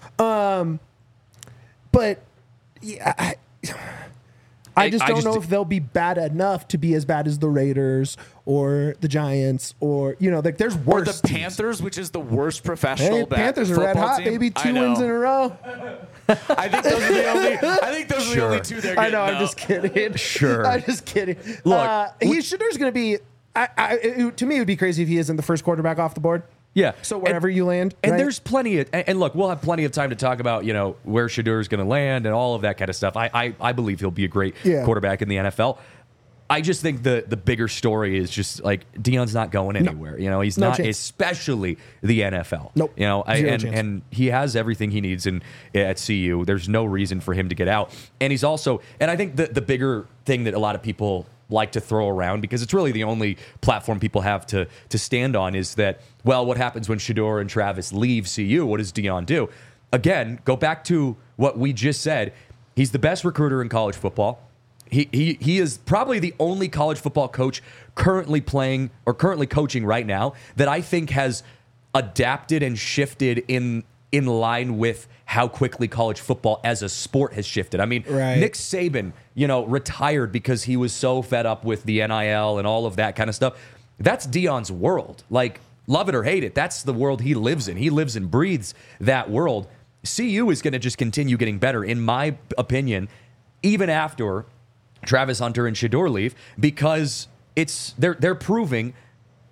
But yeah, I, I just I don't just- know if they'll be bad enough to be as bad as the Raiders or the Giants or you know, like there's Or worse. the teams. Panthers, which is the worst professional. Hey, ba- Panthers are red football hot, team. baby. I Two know. wins in a row. I think those are the only. I think those are the Sure. only two they're I getting. know. I'm now. just kidding. Sure. I'm just kidding. Look, uh, he Shadeur's going to be. I, I, it, to me, it would be crazy if he isn't the first quarterback off the board. Yeah. So wherever and, you land, and right? there's plenty of, and, and look, we'll have plenty of time to talk about, you know, where Shadeur's going to land and all of that kind of stuff. I, I, I believe he'll be a great Yeah. quarterback in the N F L. I just think the the bigger story is just like Deion's not going anywhere. You know, he's No not, chance. especially the N F L. Nope. You know, I, Zero and chance. and he has everything he needs in at C U. There's no reason for him to get out. And he's also, and I think the the bigger thing that a lot of people like to throw around, because it's really the only platform people have to to stand on, is that, well, what happens when Shedeur and Travis leave C U? What does Deion do? Again, go back to what we just said. He's the best recruiter in college football. He, he he is probably the only college football coach currently playing or currently coaching right now that I think has adapted and shifted in in line with how quickly college football as a sport has shifted. I mean, Right. Nick Saban, you know, retired because he was so fed up with the N I L and all of that kind of stuff. That's Deion's world. Like, love it or hate it, that's the world he lives in. He lives and breathes that world. C U is going to just continue getting better, in my opinion, even after Travis Hunter and Shedeur leave, because it's they're they're proving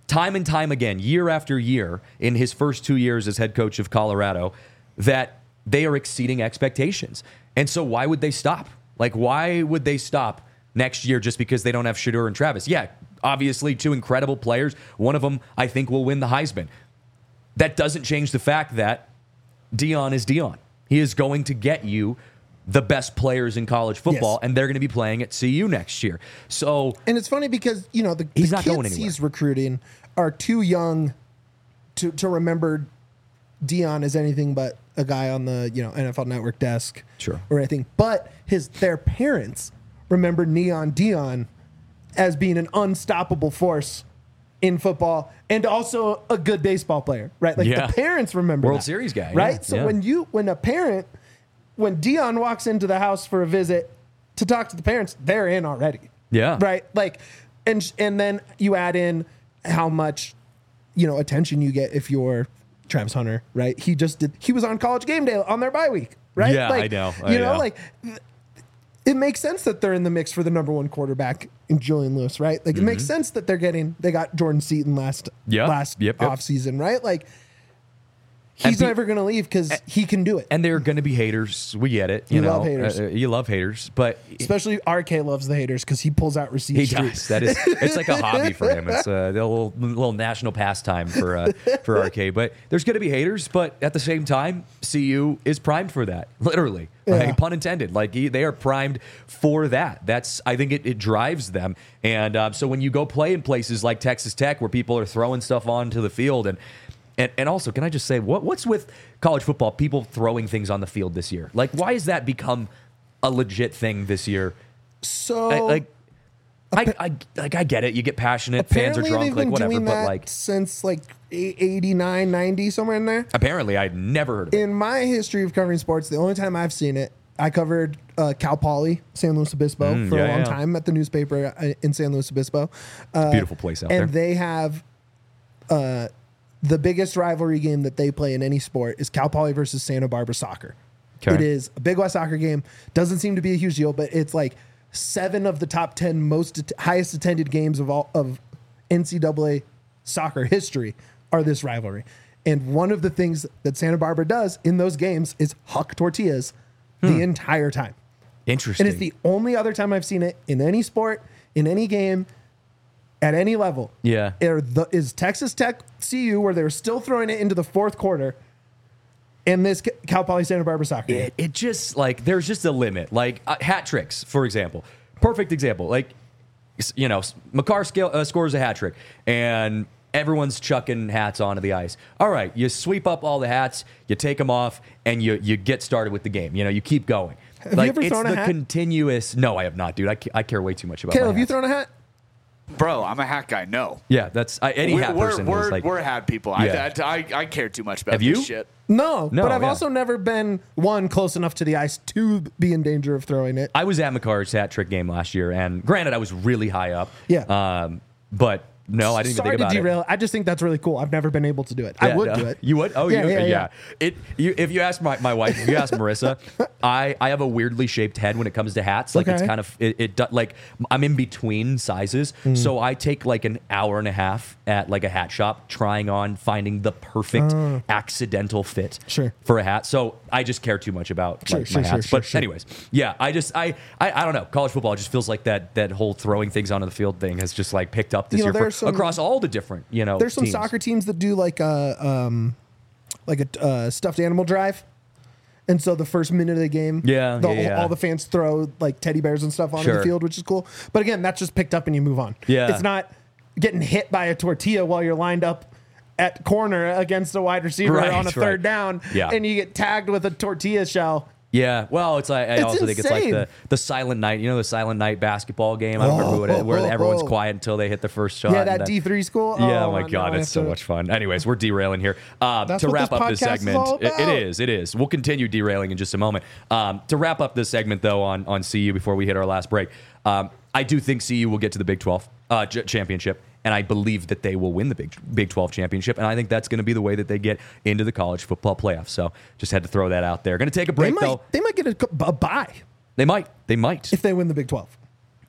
time and time again, year after year, in his first two years as head coach of Colorado, that they are exceeding expectations. And so why would they stop? Like, why would they stop next year just because they don't have Shedeur and Travis? Yeah, obviously two incredible players. One of them, I think, will win the Heisman. That doesn't change the fact that Deion is Deion. He is going to get you the best players in college football, Yes. and they're going to be playing at C U next year. So, And it's funny because, you know, the, He's the not going kids anywhere. he's recruiting are too young to, to remember Deion as anything but a guy on the, you know, N F L Network desk Sure. or anything. But his their parents remember Neon Deion as being an unstoppable force in football and also a good baseball player, right? Like Yeah. the parents remember World that, Series guy, right? yeah, So yeah. when you when a parent when Deion walks into the house for a visit to talk to the parents, they're in already. Yeah. Right. Like, and and then you add in how much, you know, attention you get if you're Travis Hunter, right? He just did. He was on College Game Day on their bye week, right? Yeah, like, I know, I you know, know. like th- it makes sense that they're in the mix for the number one quarterback in Julian Lewis, right? Like it makes sense that they're getting. They got Jordan Seaton last Mm-hmm. Yeah, last yep, yep. offseason, right? Like And he's pe- never going to leave because he can do it. and there are going to be haters. We get it. You, You know, love haters. Uh, uh, you love haters, but Especially R K loves the haters because he pulls out receipts. he street. does. That is, it's like a hobby for him. It's a little, little national pastime for uh, for R K. But there's going to be haters. But at the same time, C U is primed for that. Literally, like, Yeah. pun intended. Like he, they are primed for that. That's I think it, it drives them. And uh, so when you go play in places like Texas Tech, where people are throwing stuff onto the field, and and, and also, can I just say, what what's with college football? People throwing things on the field this year. Like, why has that become a legit thing this year? So I, like, I, I like I get it. You get passionate, fans are apparently drunk, they've like been whatever. doing But that like, since like eighty-nine, ninety, somewhere in there. apparently, I'd never heard of it. In my history of covering sports, the only time I've seen it, I covered uh, Cal Poly, San Luis Obispo, Mm, for yeah, a long yeah. time at the newspaper uh, in San Luis Obispo. Uh, Beautiful place out and there. they have uh, the biggest rivalry game that they play in any sport is Cal Poly versus Santa Barbara soccer. Okay. It is a Big West soccer game. Doesn't seem to be a huge deal, but it's like seven of the top ten most att- highest attended games of all of N C double A soccer history are this rivalry. And one of the things that Santa Barbara does in those games is huck tortillas the entire time. Interesting. And it's the only other time I've seen it in any sport, in any game, at any level. Yeah. Are the, is Texas Tech C U, where they were still throwing it into the fourth quarter, and this Cal Poly Santa Barbara soccer game. it, it just like there's just a limit. Like uh, hat tricks, for example, perfect example. Like s- you know, McCarr scale, uh, scores a hat trick, and everyone's chucking hats onto the ice. All right, you sweep up all the hats, you take them off, and you you get started with the game. You know, you keep going. Have you like ever it's thrown a the hat? continuous. No, I have not, dude. I, ca- I care way too much about. Caleb, my have you hats. thrown a hat? Bro, I'm a hat guy. No. Yeah, that's I, any We're, hat we're, person we're, is like. we're hat people. Yeah. I, I, I care too much about Have this you? shit. No, No, but I've yeah. also never been one close enough to the ice to be in danger of throwing it. I was at McCarr's hat trick game last year, and granted, I was really high up. Yeah. Um, but no, I didn't Sorry even think to about derail. I just think that's really cool. I've never been able to do it. I Yeah, would no. do it. You would? Oh, Yeah, you, yeah, yeah. yeah. It. You, if you ask my, my wife, if you ask Marissa, I, I have a weirdly shaped head when it comes to hats. Like it's Okay. kind of it, it. do- Like I'm in between sizes, Mm. so I take like an hour and a half at like a hat shop trying on finding the perfect accidental fit Uh. Sure. for a hat. So I just care too much about Sure, like, sure, my sure, hats. sure, but sure. anyways, yeah, I just I, I I don't know. College football just feels like that that whole throwing things onto the field thing has just like picked up this You know, year for, there's some- across all the different you know. There's some teams. soccer teams that do like a um, like a uh, stuffed animal drive, and so the first minute of the game, Yeah, the, yeah, yeah. all the fans throw like teddy bears and stuff onto Sure. the field, which is cool. But again, that's just picked up and you move on. Yeah. It's not getting hit by a tortilla while you're lined up at corner against a wide receiver Right, on a right. third down, Yeah. and you get tagged with a tortilla shell. Yeah, well, it's like I It's also think it's like insane. the, the silent night. You know, the silent night basketball game. I don't remember what it, where Oh, oh, everyone's oh. quiet until they hit the first shot. Yeah, and that then- D three school. Yeah, oh Oh, my now god, I it's have so to- much fun. Anyways, we're derailing here. Um, That's to what wrap this up this podcast is segment, all it- it about. is, it is. We'll continue derailing in just a moment. Um, to wrap up this segment though on on C U before we hit our last break, um, I do think C U will get to the Big twelve uh, j- championship. And I believe that they will win the Big Big twelve championship, and I think that's going to be the way that they get into the college football playoffs. So just had to throw that out there. Going to take a They break might, though. they might get a, a bye They might. They might. if they win the Big twelve.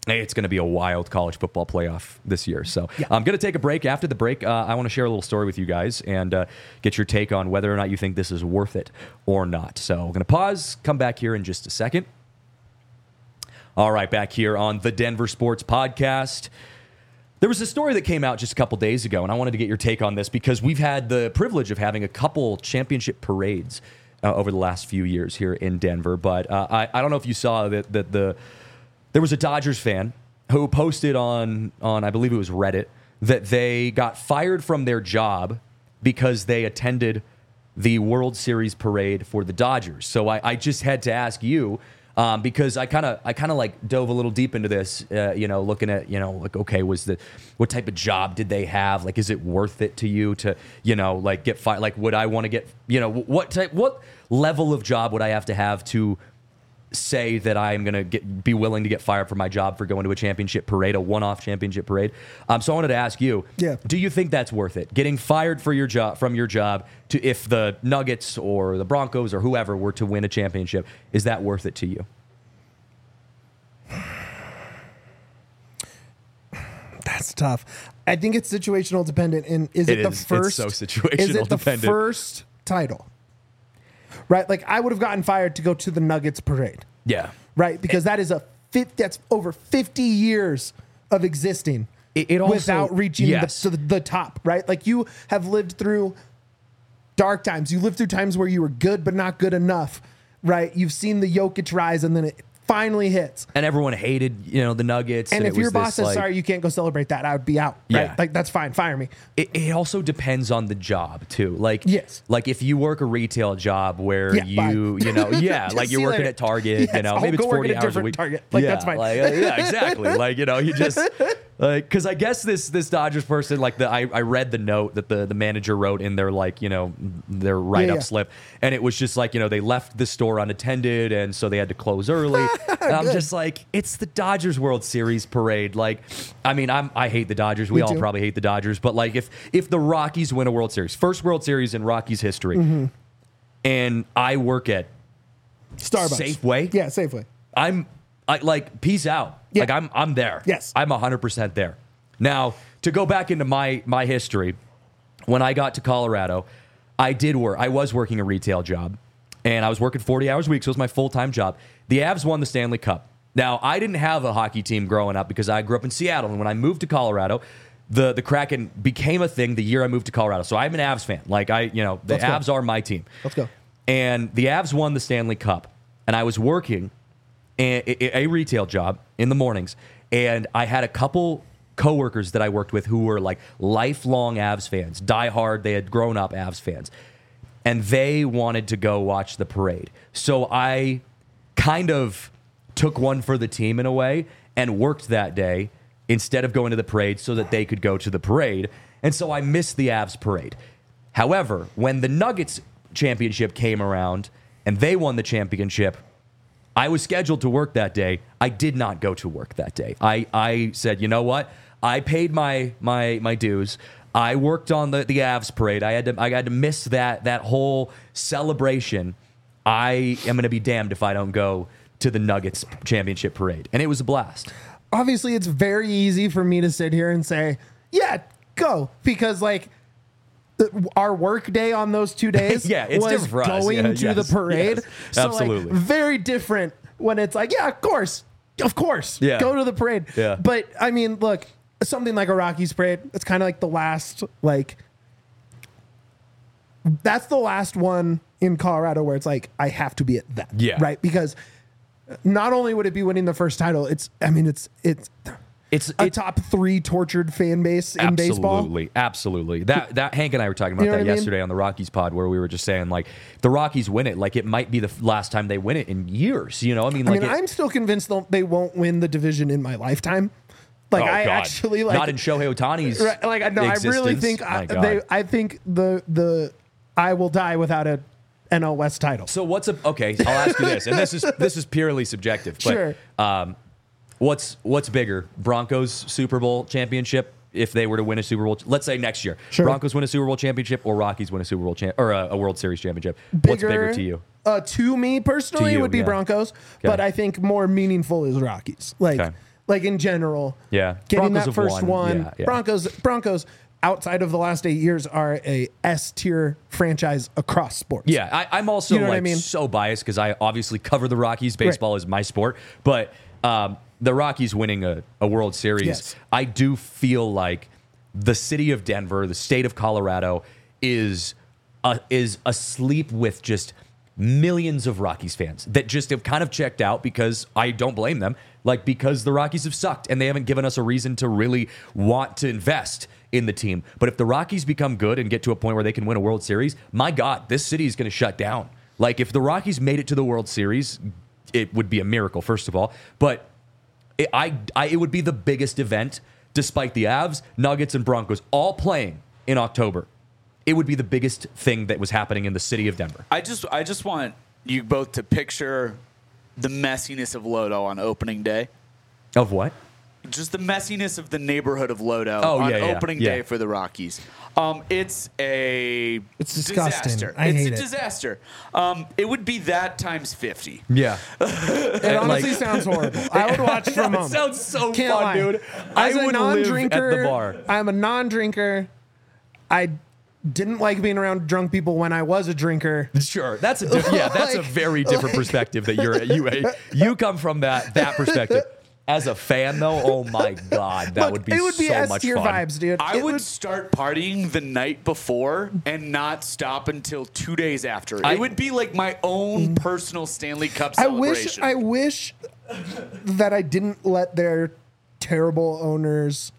Hey, it's going to be a wild college football playoff this year. So Yeah. I'm going to take a break. After the break, uh, I want to share a little story with you guys and uh, get your take on whether or not you think this is worth it or not. So we're going to pause, come back here in just a second. All right, back here on the Denver Sports Podcast. There was a story that came out just a couple days ago, and I wanted to get your take on this because we've had the privilege of having a couple championship parades uh, over the last few years here in Denver. But uh, I, I don't know if you saw that, that the there was a Dodgers fan who posted on, on, I believe it was Reddit, that they got fired from their job because they attended the World Series parade for the Dodgers. So I, I just had to ask you, Um, because I kind of, I kind of like dove a little deep into this, uh, you know, looking at, you know, like, okay, was the, what type of job did they have? Like, is it worth it to you to, you know, like get fired? Like, would I want to get, you know, what type, what level of job would I have to have to say that I'm going to get, be willing to get fired from my job for going to a championship parade, a one-off championship parade? Um, so I wanted to ask you, Yeah. do you think that's worth it? Getting fired for your job, from your job to, if the Nuggets or the Broncos or whoever were to win a championship, is that worth it to you? That's tough. I think it's situational dependent. And is it, It the is. It's first? so situational Is it the dependent. first title? Right. Like I would have gotten fired to go to the Nuggets parade. Yeah. Right. Because that is a fit. That's over fifty years of existing It, it also, without reaching yes. the, to the, the top. Right. Like you have lived through dark times. You lived through times where you were good but not good enough. Right. You've seen the Jokic rise, and then it finally hits. And everyone hated, you know, the Nuggets. And, and if it was your boss this, says, like, sorry, you can't go celebrate that, I would be out. Right? Yeah. Like, that's fine. Fire me. It, it also depends on the job too. Like, Yes. like if you work a retail job where Yeah, you, you know, yeah, Just like see you're you working later. at Target, Yes, you know, I'll maybe go it's work forty at a hours a different week. Target. Like, yeah, that's fine. Like, uh, yeah, exactly. Like, you know, you just, like, because I guess this this Dodgers person, like the I, I read the note that the the manager wrote in their, like, you know, their write up yeah. slip, and it was just like, you know, they left the store unattended, and so they had to close early. And I'm Good. just like, it's the Dodgers World Series parade. Like, I mean, I'm I hate the Dodgers. We Me all too. probably hate the Dodgers, but like if if the Rockies win a World Series, first World Series in Rockies history, Mm-hmm. and I work at Starbucks. Safeway? Yeah, Safeway. I'm I like peace out. Yeah. Like I'm I'm there. Yes. I'm one hundred percent there. Now, to go back into my my history, when I got to Colorado, I did work. I was working a retail job, and I was working forty hours a week, so it was my full-time job. The Avs won the Stanley Cup. Now, I didn't have a hockey team growing up because I grew up in Seattle, and when I moved to Colorado, the the Kraken became a thing the year I moved to Colorado. So I'm an Avs fan. Like I, you know, the Let's go. Avs are my team. Let's go. And the Avs won the Stanley Cup, and I was working a, a, a retail job in the mornings, and I had a couple coworkers that I worked with who were like lifelong Avs fans, diehard. They had grown up Avs fans, and they wanted to go watch the parade. So I kind of took one for the team in a way and worked that day instead of going to the parade so that they could go to the parade. And so I missed the Avs parade. However, when the Nuggets championship came around and they won the championship, I was scheduled to work that day. I did not go to work that day. I, I said, you know what? I paid my my my dues. I worked on the, the Avs parade. I had to I had to miss that that whole celebration. I am going to be damned if I don't go to the Nuggets championship parade. And it was a blast. Obviously, it's very easy for me to sit here and say, yeah, go. Because, like, the- our work day on those two days Yeah, it's was different for us. going Yeah, to yes, the parade. yes, so, absolutely. Like, very different when it's like, yeah, of course. Of course. Yeah. Go to the parade. Yeah. But, I mean, look, something like a Rockies parade, it's kind of like the last, like, that's the last one in Colorado where it's like, I have to be at that. Yeah. Right? Because not only would it be winning the first title, it's, I mean, it's, it's, It's a it- top three tortured fan base in baseball. Absolutely, absolutely. That that Hank and I were talking about You know that what I mean? yesterday on the Rockies pod, where we were just saying like the Rockies win it, like it might be the f- last time they win it in years. You know, I mean, I like mean, it- I'm still convinced they'll- they won't win the division in my lifetime. Like oh, I God. actually like not in Shohei Ohtani's right, like I know I really existence. think My I, God. they I think the the I will die without a N L West title. So what's a okay? I'll ask you this, and this is this is purely subjective. But, Sure. Um, what's what's bigger, Broncos Super Bowl championship? If they were to win a Super Bowl, let's say next year, Sure. Broncos win a Super Bowl championship, or Rockies win a Super Bowl champ or a, a World Series championship. What's bigger to you? Uh, to me personally, To you, it would be yeah. Broncos, Okay. but I think more meaningful is Rockies. Like Okay. like in general. Yeah. Getting Broncos that have first won. one. Yeah, yeah. Broncos, Broncos, outside of the last eight years, are a S tier franchise across sports. Yeah, I, I'm also You know what like I mean? so biased because I obviously cover the Rockies. Baseball is my sport, but um, the Rockies winning a, a World Series, Yes. I do feel like the city of Denver, the state of Colorado, is uh, is asleep with just millions of Rockies fans that just have kind of checked out because I don't blame them. Like because the Rockies have sucked and they haven't given us a reason to really want to invest in the team. But if the Rockies become good and get to a point where they can win a World Series, my God, this city is going to shut down. Like if the Rockies made it to the World Series, it would be a miracle, first of all. But it, I, I, it would be the biggest event, despite the Avs, Nuggets, and Broncos all playing in October. It would be the biggest thing that was happening in the city of Denver. I just I just want you both to picture the messiness of Lodo on opening day. Of what? Just the messiness of the neighborhood of Lodo Oh, on yeah, yeah, opening yeah. day for the Rockies. Um, it's a It's disgusting. disaster. I it's hate a it. disaster. Um, it would be that times fifty. Yeah. It honestly sounds horrible. I would watch from home. It sounds so Can't fun, lie. dude. As I a would non-drinker, live at the bar. I'm a non-drinker. I didn't like being around drunk people when I was a drinker. Sure, that's a diff- yeah, that's a Like- very different perspective that you're you you come from that that perspective. As a fan, though, oh my God, that Look, would be it would be so S much tier fun. vibes, dude. I It would start partying the night before and not stop until two days after. I- it would be like my own personal Stanley Cup I wish. celebration. I wish that I didn't let their terrible owners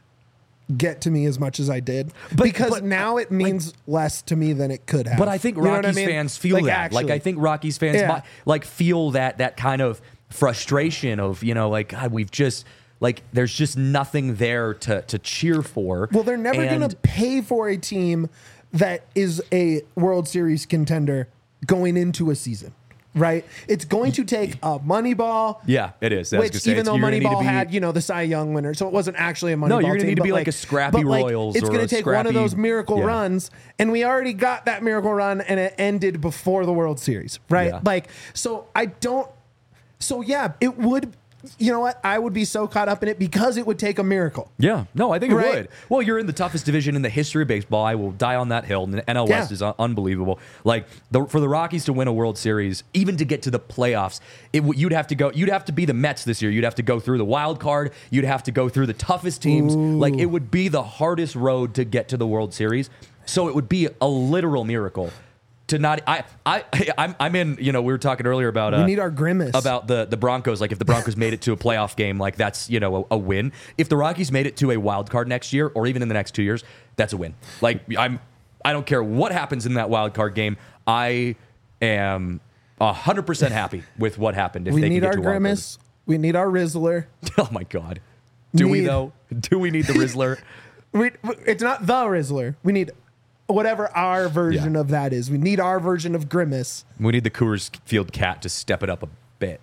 get to me as much as I did, But- because but, now it means less to me than it could have. But I think You know Rockies what I mean? fans feel Like, that. actually. Like I think Rockies fans Yeah. mi- like feel that that kind of frustration of you know like God, we've just like there's just nothing there to to cheer for. Well, they're never And- going to pay for a team that is a World Series contender going into a season, right? It's going to take a Moneyball. Yeah, it is. I was gonna Which, say, even it's- though you're gonna need to Moneyball be- had, you know, the Cy Young winner, so it wasn't actually a Moneyball No, you're gonna team, need to but be like a scrappy but like, Royals It's or gonna a take one of those scrappy- miracle yeah. runs, and we already got that miracle run, and it ended before the World Series, right? Yeah. Like, so I don't. So yeah, it would. You know what? I would be so caught up in it because it would take a miracle. Yeah, no, I think it Right? would. Well, you're in the toughest division in the history of baseball. I will die on that hill. And the N L West Yeah. is un- unbelievable. Like the, for the Rockies to win a World Series, even to get to the playoffs, it w- you'd have to go. You'd have to be the Mets this year. You'd have to go through the wild card. You'd have to go through the toughest teams. Like it would be the hardest road to get to the World Series. So it would be a literal miracle. To not, I, I, I'm, I'm in. You know, we were talking earlier about. Uh, We need our grimace. about the the Broncos. Like if the Broncos made it to a playoff game, like that's you know a, a win. If the Rockies made it to a wild card next year, or even in the next two years, that's a win. Like I'm, I don't care what happens in that wild card game. I am a hundred percent happy with what happened. If we they need can our get to a wild card. grimace. We need our Rizzler. Oh my God, do we Need- though? Do we need the Rizzler? We, it's not the Rizzler. We need whatever our version Yeah. of that is. We need our version of grimace. We need the Coors Field Cat to step it up a bit.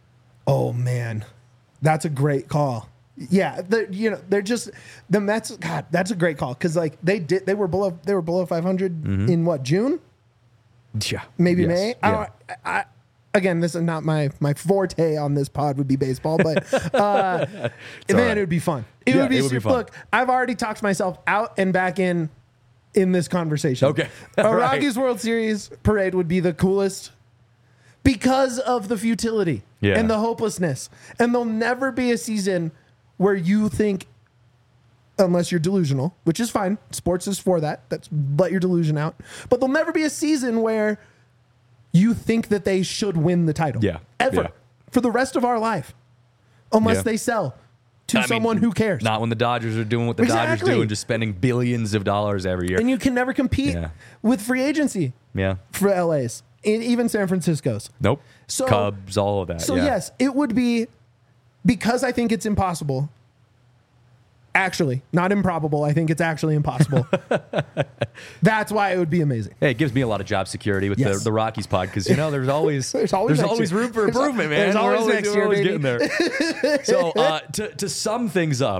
Oh man, that's a great call. Yeah, the, you know they're just the Mets. God, that's a great call because like they did, they were below, they were below five hundred in what June, Yeah, maybe Mm-hmm. Yes. May. I Yeah. don't, I, I, again, this is not my my forte on this pod would be baseball, but uh, man, right. it would be fun. It Yeah, would be. it would be super- fun. Look, I've already talked myself out and back in in this conversation. Okay. a All right. Rockies World Series parade would be the coolest because of the futility Yeah. and the hopelessness. And there'll never be a season where you think, unless you're delusional, which is fine. Sports is for that. That's let your delusion out. But there'll never be a season where you think that they should win the title. Yeah. Ever. Yeah. For the rest of our life. Unless Yeah. they sell to I mean, someone who cares. Not when the Dodgers are doing what the Dodgers Exactly. do and just spending billions of dollars every year. And you can never compete Yeah. with free agency Yeah. for L A's. And even San Francisco's. Nope. So- Cubs, all of that. So yeah. yes, it would be because I think it's impossible. Actually, not improbable. I think it's actually impossible. That's why it would be amazing. Hey, it gives me a lot of job security with Yes. the, the Rockies pod because you know there's always There's always next year. room for There's al- improvement, man. there's We're always next we're year, always baby. getting there. So uh, to to sum things up,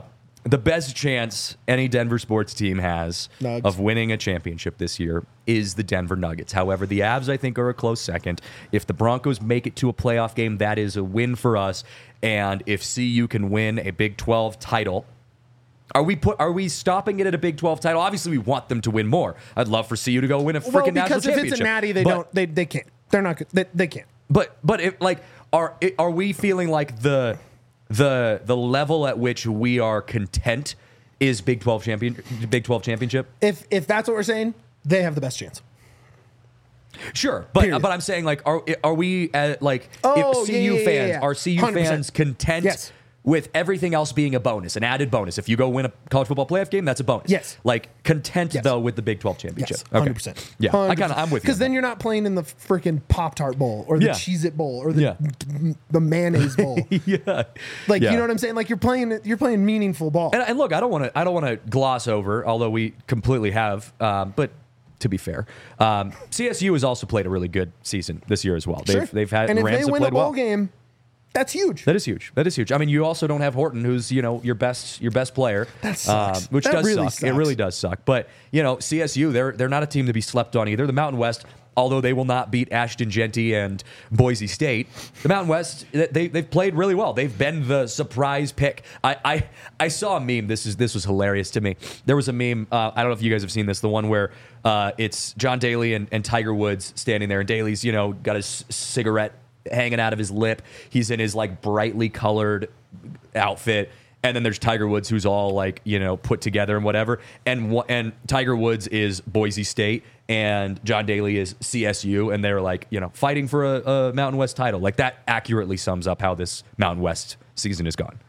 the best chance any Denver sports team has Nugs. of winning a championship this year is the Denver Nuggets. However, the Avs, I think, are a close second. If the Broncos make it to a playoff game, that is a win for us. And if C U can win a Big twelve title, are we put? Are we stopping it at a Big twelve title? Obviously, we want them to win more. I'd love for C U to go win a freaking Well, national because if championship. it's a natty, they But- don't. They they can't. They're not good. They, they can't. But but if, like are are we feeling like the the the level at which we are content is Big twelve champion Big twelve championship? If if that's what we're saying, they have the best chance. Sure, but Period. but I'm saying like are are we at like Oh, if C U yeah, yeah, fans yeah, yeah. are C U one hundred percent. fans content Yes. with everything else being a bonus, an added bonus? If you go win a college football playoff game, that's a bonus. Yes. Like content Yes. though with the Big twelve championship. Yes, one hundred percent. Yeah, I kind of I'm with you. Because on then that. you're not playing in the freaking Pop-Tart Bowl or the Yeah. Cheez-It Bowl or the Yeah. the mayonnaise bowl. yeah, Like Yeah. you know what I'm saying? Like you're playing you're playing meaningful ball. And, and look, I don't want to. I don't want to gloss over, although we completely have. Um, but to be fair, um, C S U has also played a really good season this year as well. They've Sure. they've had and if Rams they have win a played bowl well. game, that's huge. That is huge. That is huge. I mean, you also don't have Horton, who's you know your best your best player. That sucks. Um, which That does really suck. It sucks. really does suck. But you know, C S U, they're they're not a team to be slept on either. The Mountain West, although they will not beat Ashton Genty and Boise State, the Mountain West they they've played really well. They've been the surprise pick. I I, I saw a meme. This is this was hilarious to me. There was a meme. Uh, I don't know if you guys have seen this. The one where uh, it's John Daly and, and Tiger Woods standing there, and Daly's you know got his c- cigarette hanging out of his lip. He's in his like brightly colored outfit. And then there's Tiger Woods, who's all like, you know, put together and whatever. And wha- and Tiger Woods is Boise State, and John Daly is C S U, and they're like, you know, fighting for a, a Mountain West title. Like that accurately sums up how this Mountain West season has gone.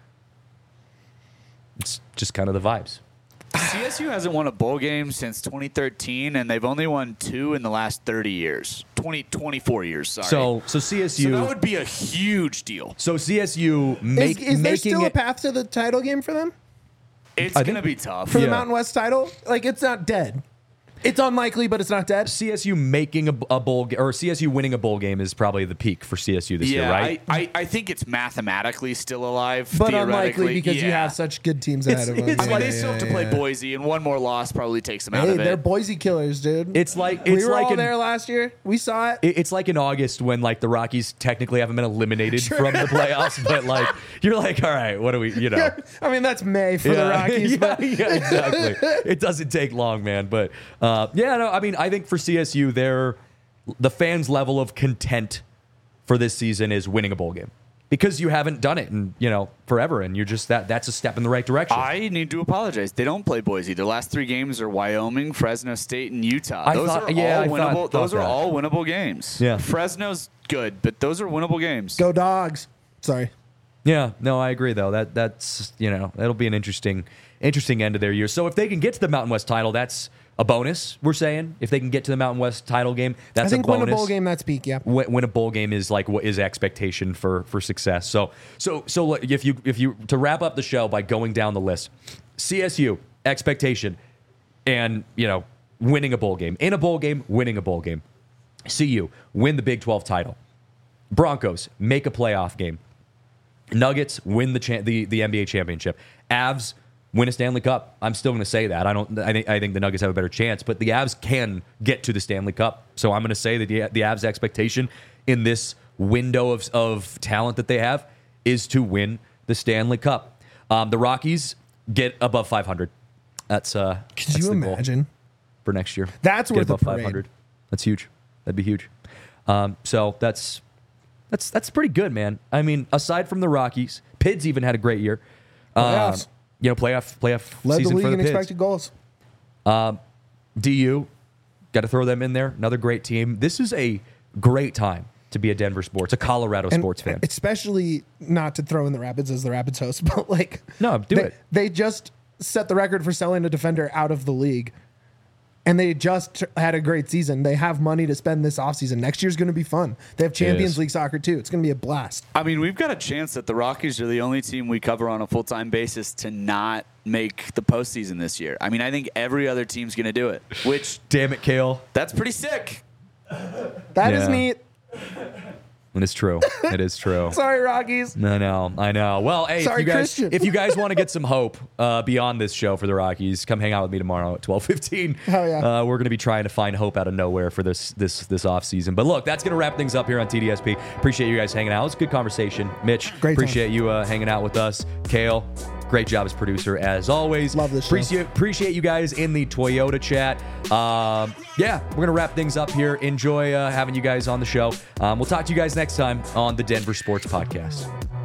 It's just kind of the vibes. C S U hasn't won a bowl game since twenty thirteen, and they've only won two in the last thirty years. twenty, twenty-four years, sorry. So so C S U. So that would be a huge deal. So C S U make, is is there making still a it. path to the title game for them? It's I going to think- be tough. For Yeah. the Mountain West title? Like it's not dead. It's unlikely, but it's not dead. C S U making a, a bowl ga- or C S U winning a bowl game is probably the peak for C S U this yeah, year, right? I, I, I think it's mathematically still alive, But theoretically. unlikely because you Yeah. have such good teams ahead of them. it's I mean, like- they still have to play Boise, and one more loss probably takes them out Hey, of they're it. Boise killers, dude. It's like we it's were like all an, there last year. We saw it. It- It's like in August when like the Rockies technically haven't been eliminated from the playoffs, but like you're like, all right, what do we, you know? I mean, that's May for the Yeah. Rockies, yeah, but yeah, exactly. It doesn't take long, man. But uh, yeah, no, I mean, I think for C S U, they're the fans' level of content for this season is winning a bowl game because you haven't done it in you know forever, and you're just that that's a step in the right direction. I need to apologize. They don't play Boise. Their last three games are Wyoming, Fresno State, and Utah. I Those thought- are yeah, all I thought- winnable. thought those are that. all winnable games. Yeah. Fresno's good, but those are winnable games. go Dogs. Sorry. Yeah, no, I agree though. That that's you know that'll be an interesting interesting end of their year. So if they can get to the Mountain West title, that's a bonus. We're saying if they can get to the Mountain West title game, that's I think a bonus. win a bowl game, that's peak, yeah. Win, win a bowl game is like what is expectation for for success. So so so look, if you if you to wrap up the show by going down the list, C S U expectation, and you know winning a bowl game, in a bowl game, winning a bowl game. C U win the Big twelve title. Broncos make a playoff game. Nuggets win the cha- the the N B A championship. Avs win a Stanley Cup. I'm still going to say that. I don't. I think I think the Nuggets have a better chance, but the Avs can get to the Stanley Cup. So I'm going to say that the the Avs' expectation in this window of of talent that they have is to win the Stanley Cup. Um, the Rockies get above five hundred. That's uh. Could that's you the goal imagine? for next year? That's Get worth a above parade. five hundred. That's huge. That'd be huge. Um, so that's that's that's pretty good, man. I mean, aside from the Rockies, Pids even had a great year. Um, Playoffs. you know, playoff playoff Led the season league for the in Pids. expected goals. D U, got to throw them in there. Another great team. This is a great time to be a Denver sports, a Colorado And sports fan. especially not to throw in the Rapids as the Rapids host, but like No, do they, it. They just set the record for selling a defender out of the league. And they just had a great season. They have money to spend this offseason. Next year's going to be fun. They have Champions is. League soccer too. It's going to be a blast. I mean, we've got a chance that the Rockies are the only team we cover on a full-time basis to not make the postseason this year. I mean, I think every other team's going to do it, which Damn it, Kale. that's pretty sick. That is Yeah. neat. It is true. It is true. Sorry, Rockies. I know. I know. Well, hey, Sorry, if you guys, Christian. if you guys want to get some hope uh, beyond this show for the Rockies, come hang out with me tomorrow at twelve fifteen. Hell yeah. Uh, we're going to be trying to find hope out of nowhere for this this this off season. But look, that's going to wrap things up here on T D S P. Appreciate you guys hanging out. It was a good conversation. Mitch, Great time. appreciate you uh, hanging out with us. Kale, great job as producer as always. Love this show. Appreciate, appreciate you guys in the Toyota chat. Um, yeah, we're going to wrap things up here. Enjoy uh, having you guys on the show. Um, we'll talk to you guys next time on the Denver Sports Podcast.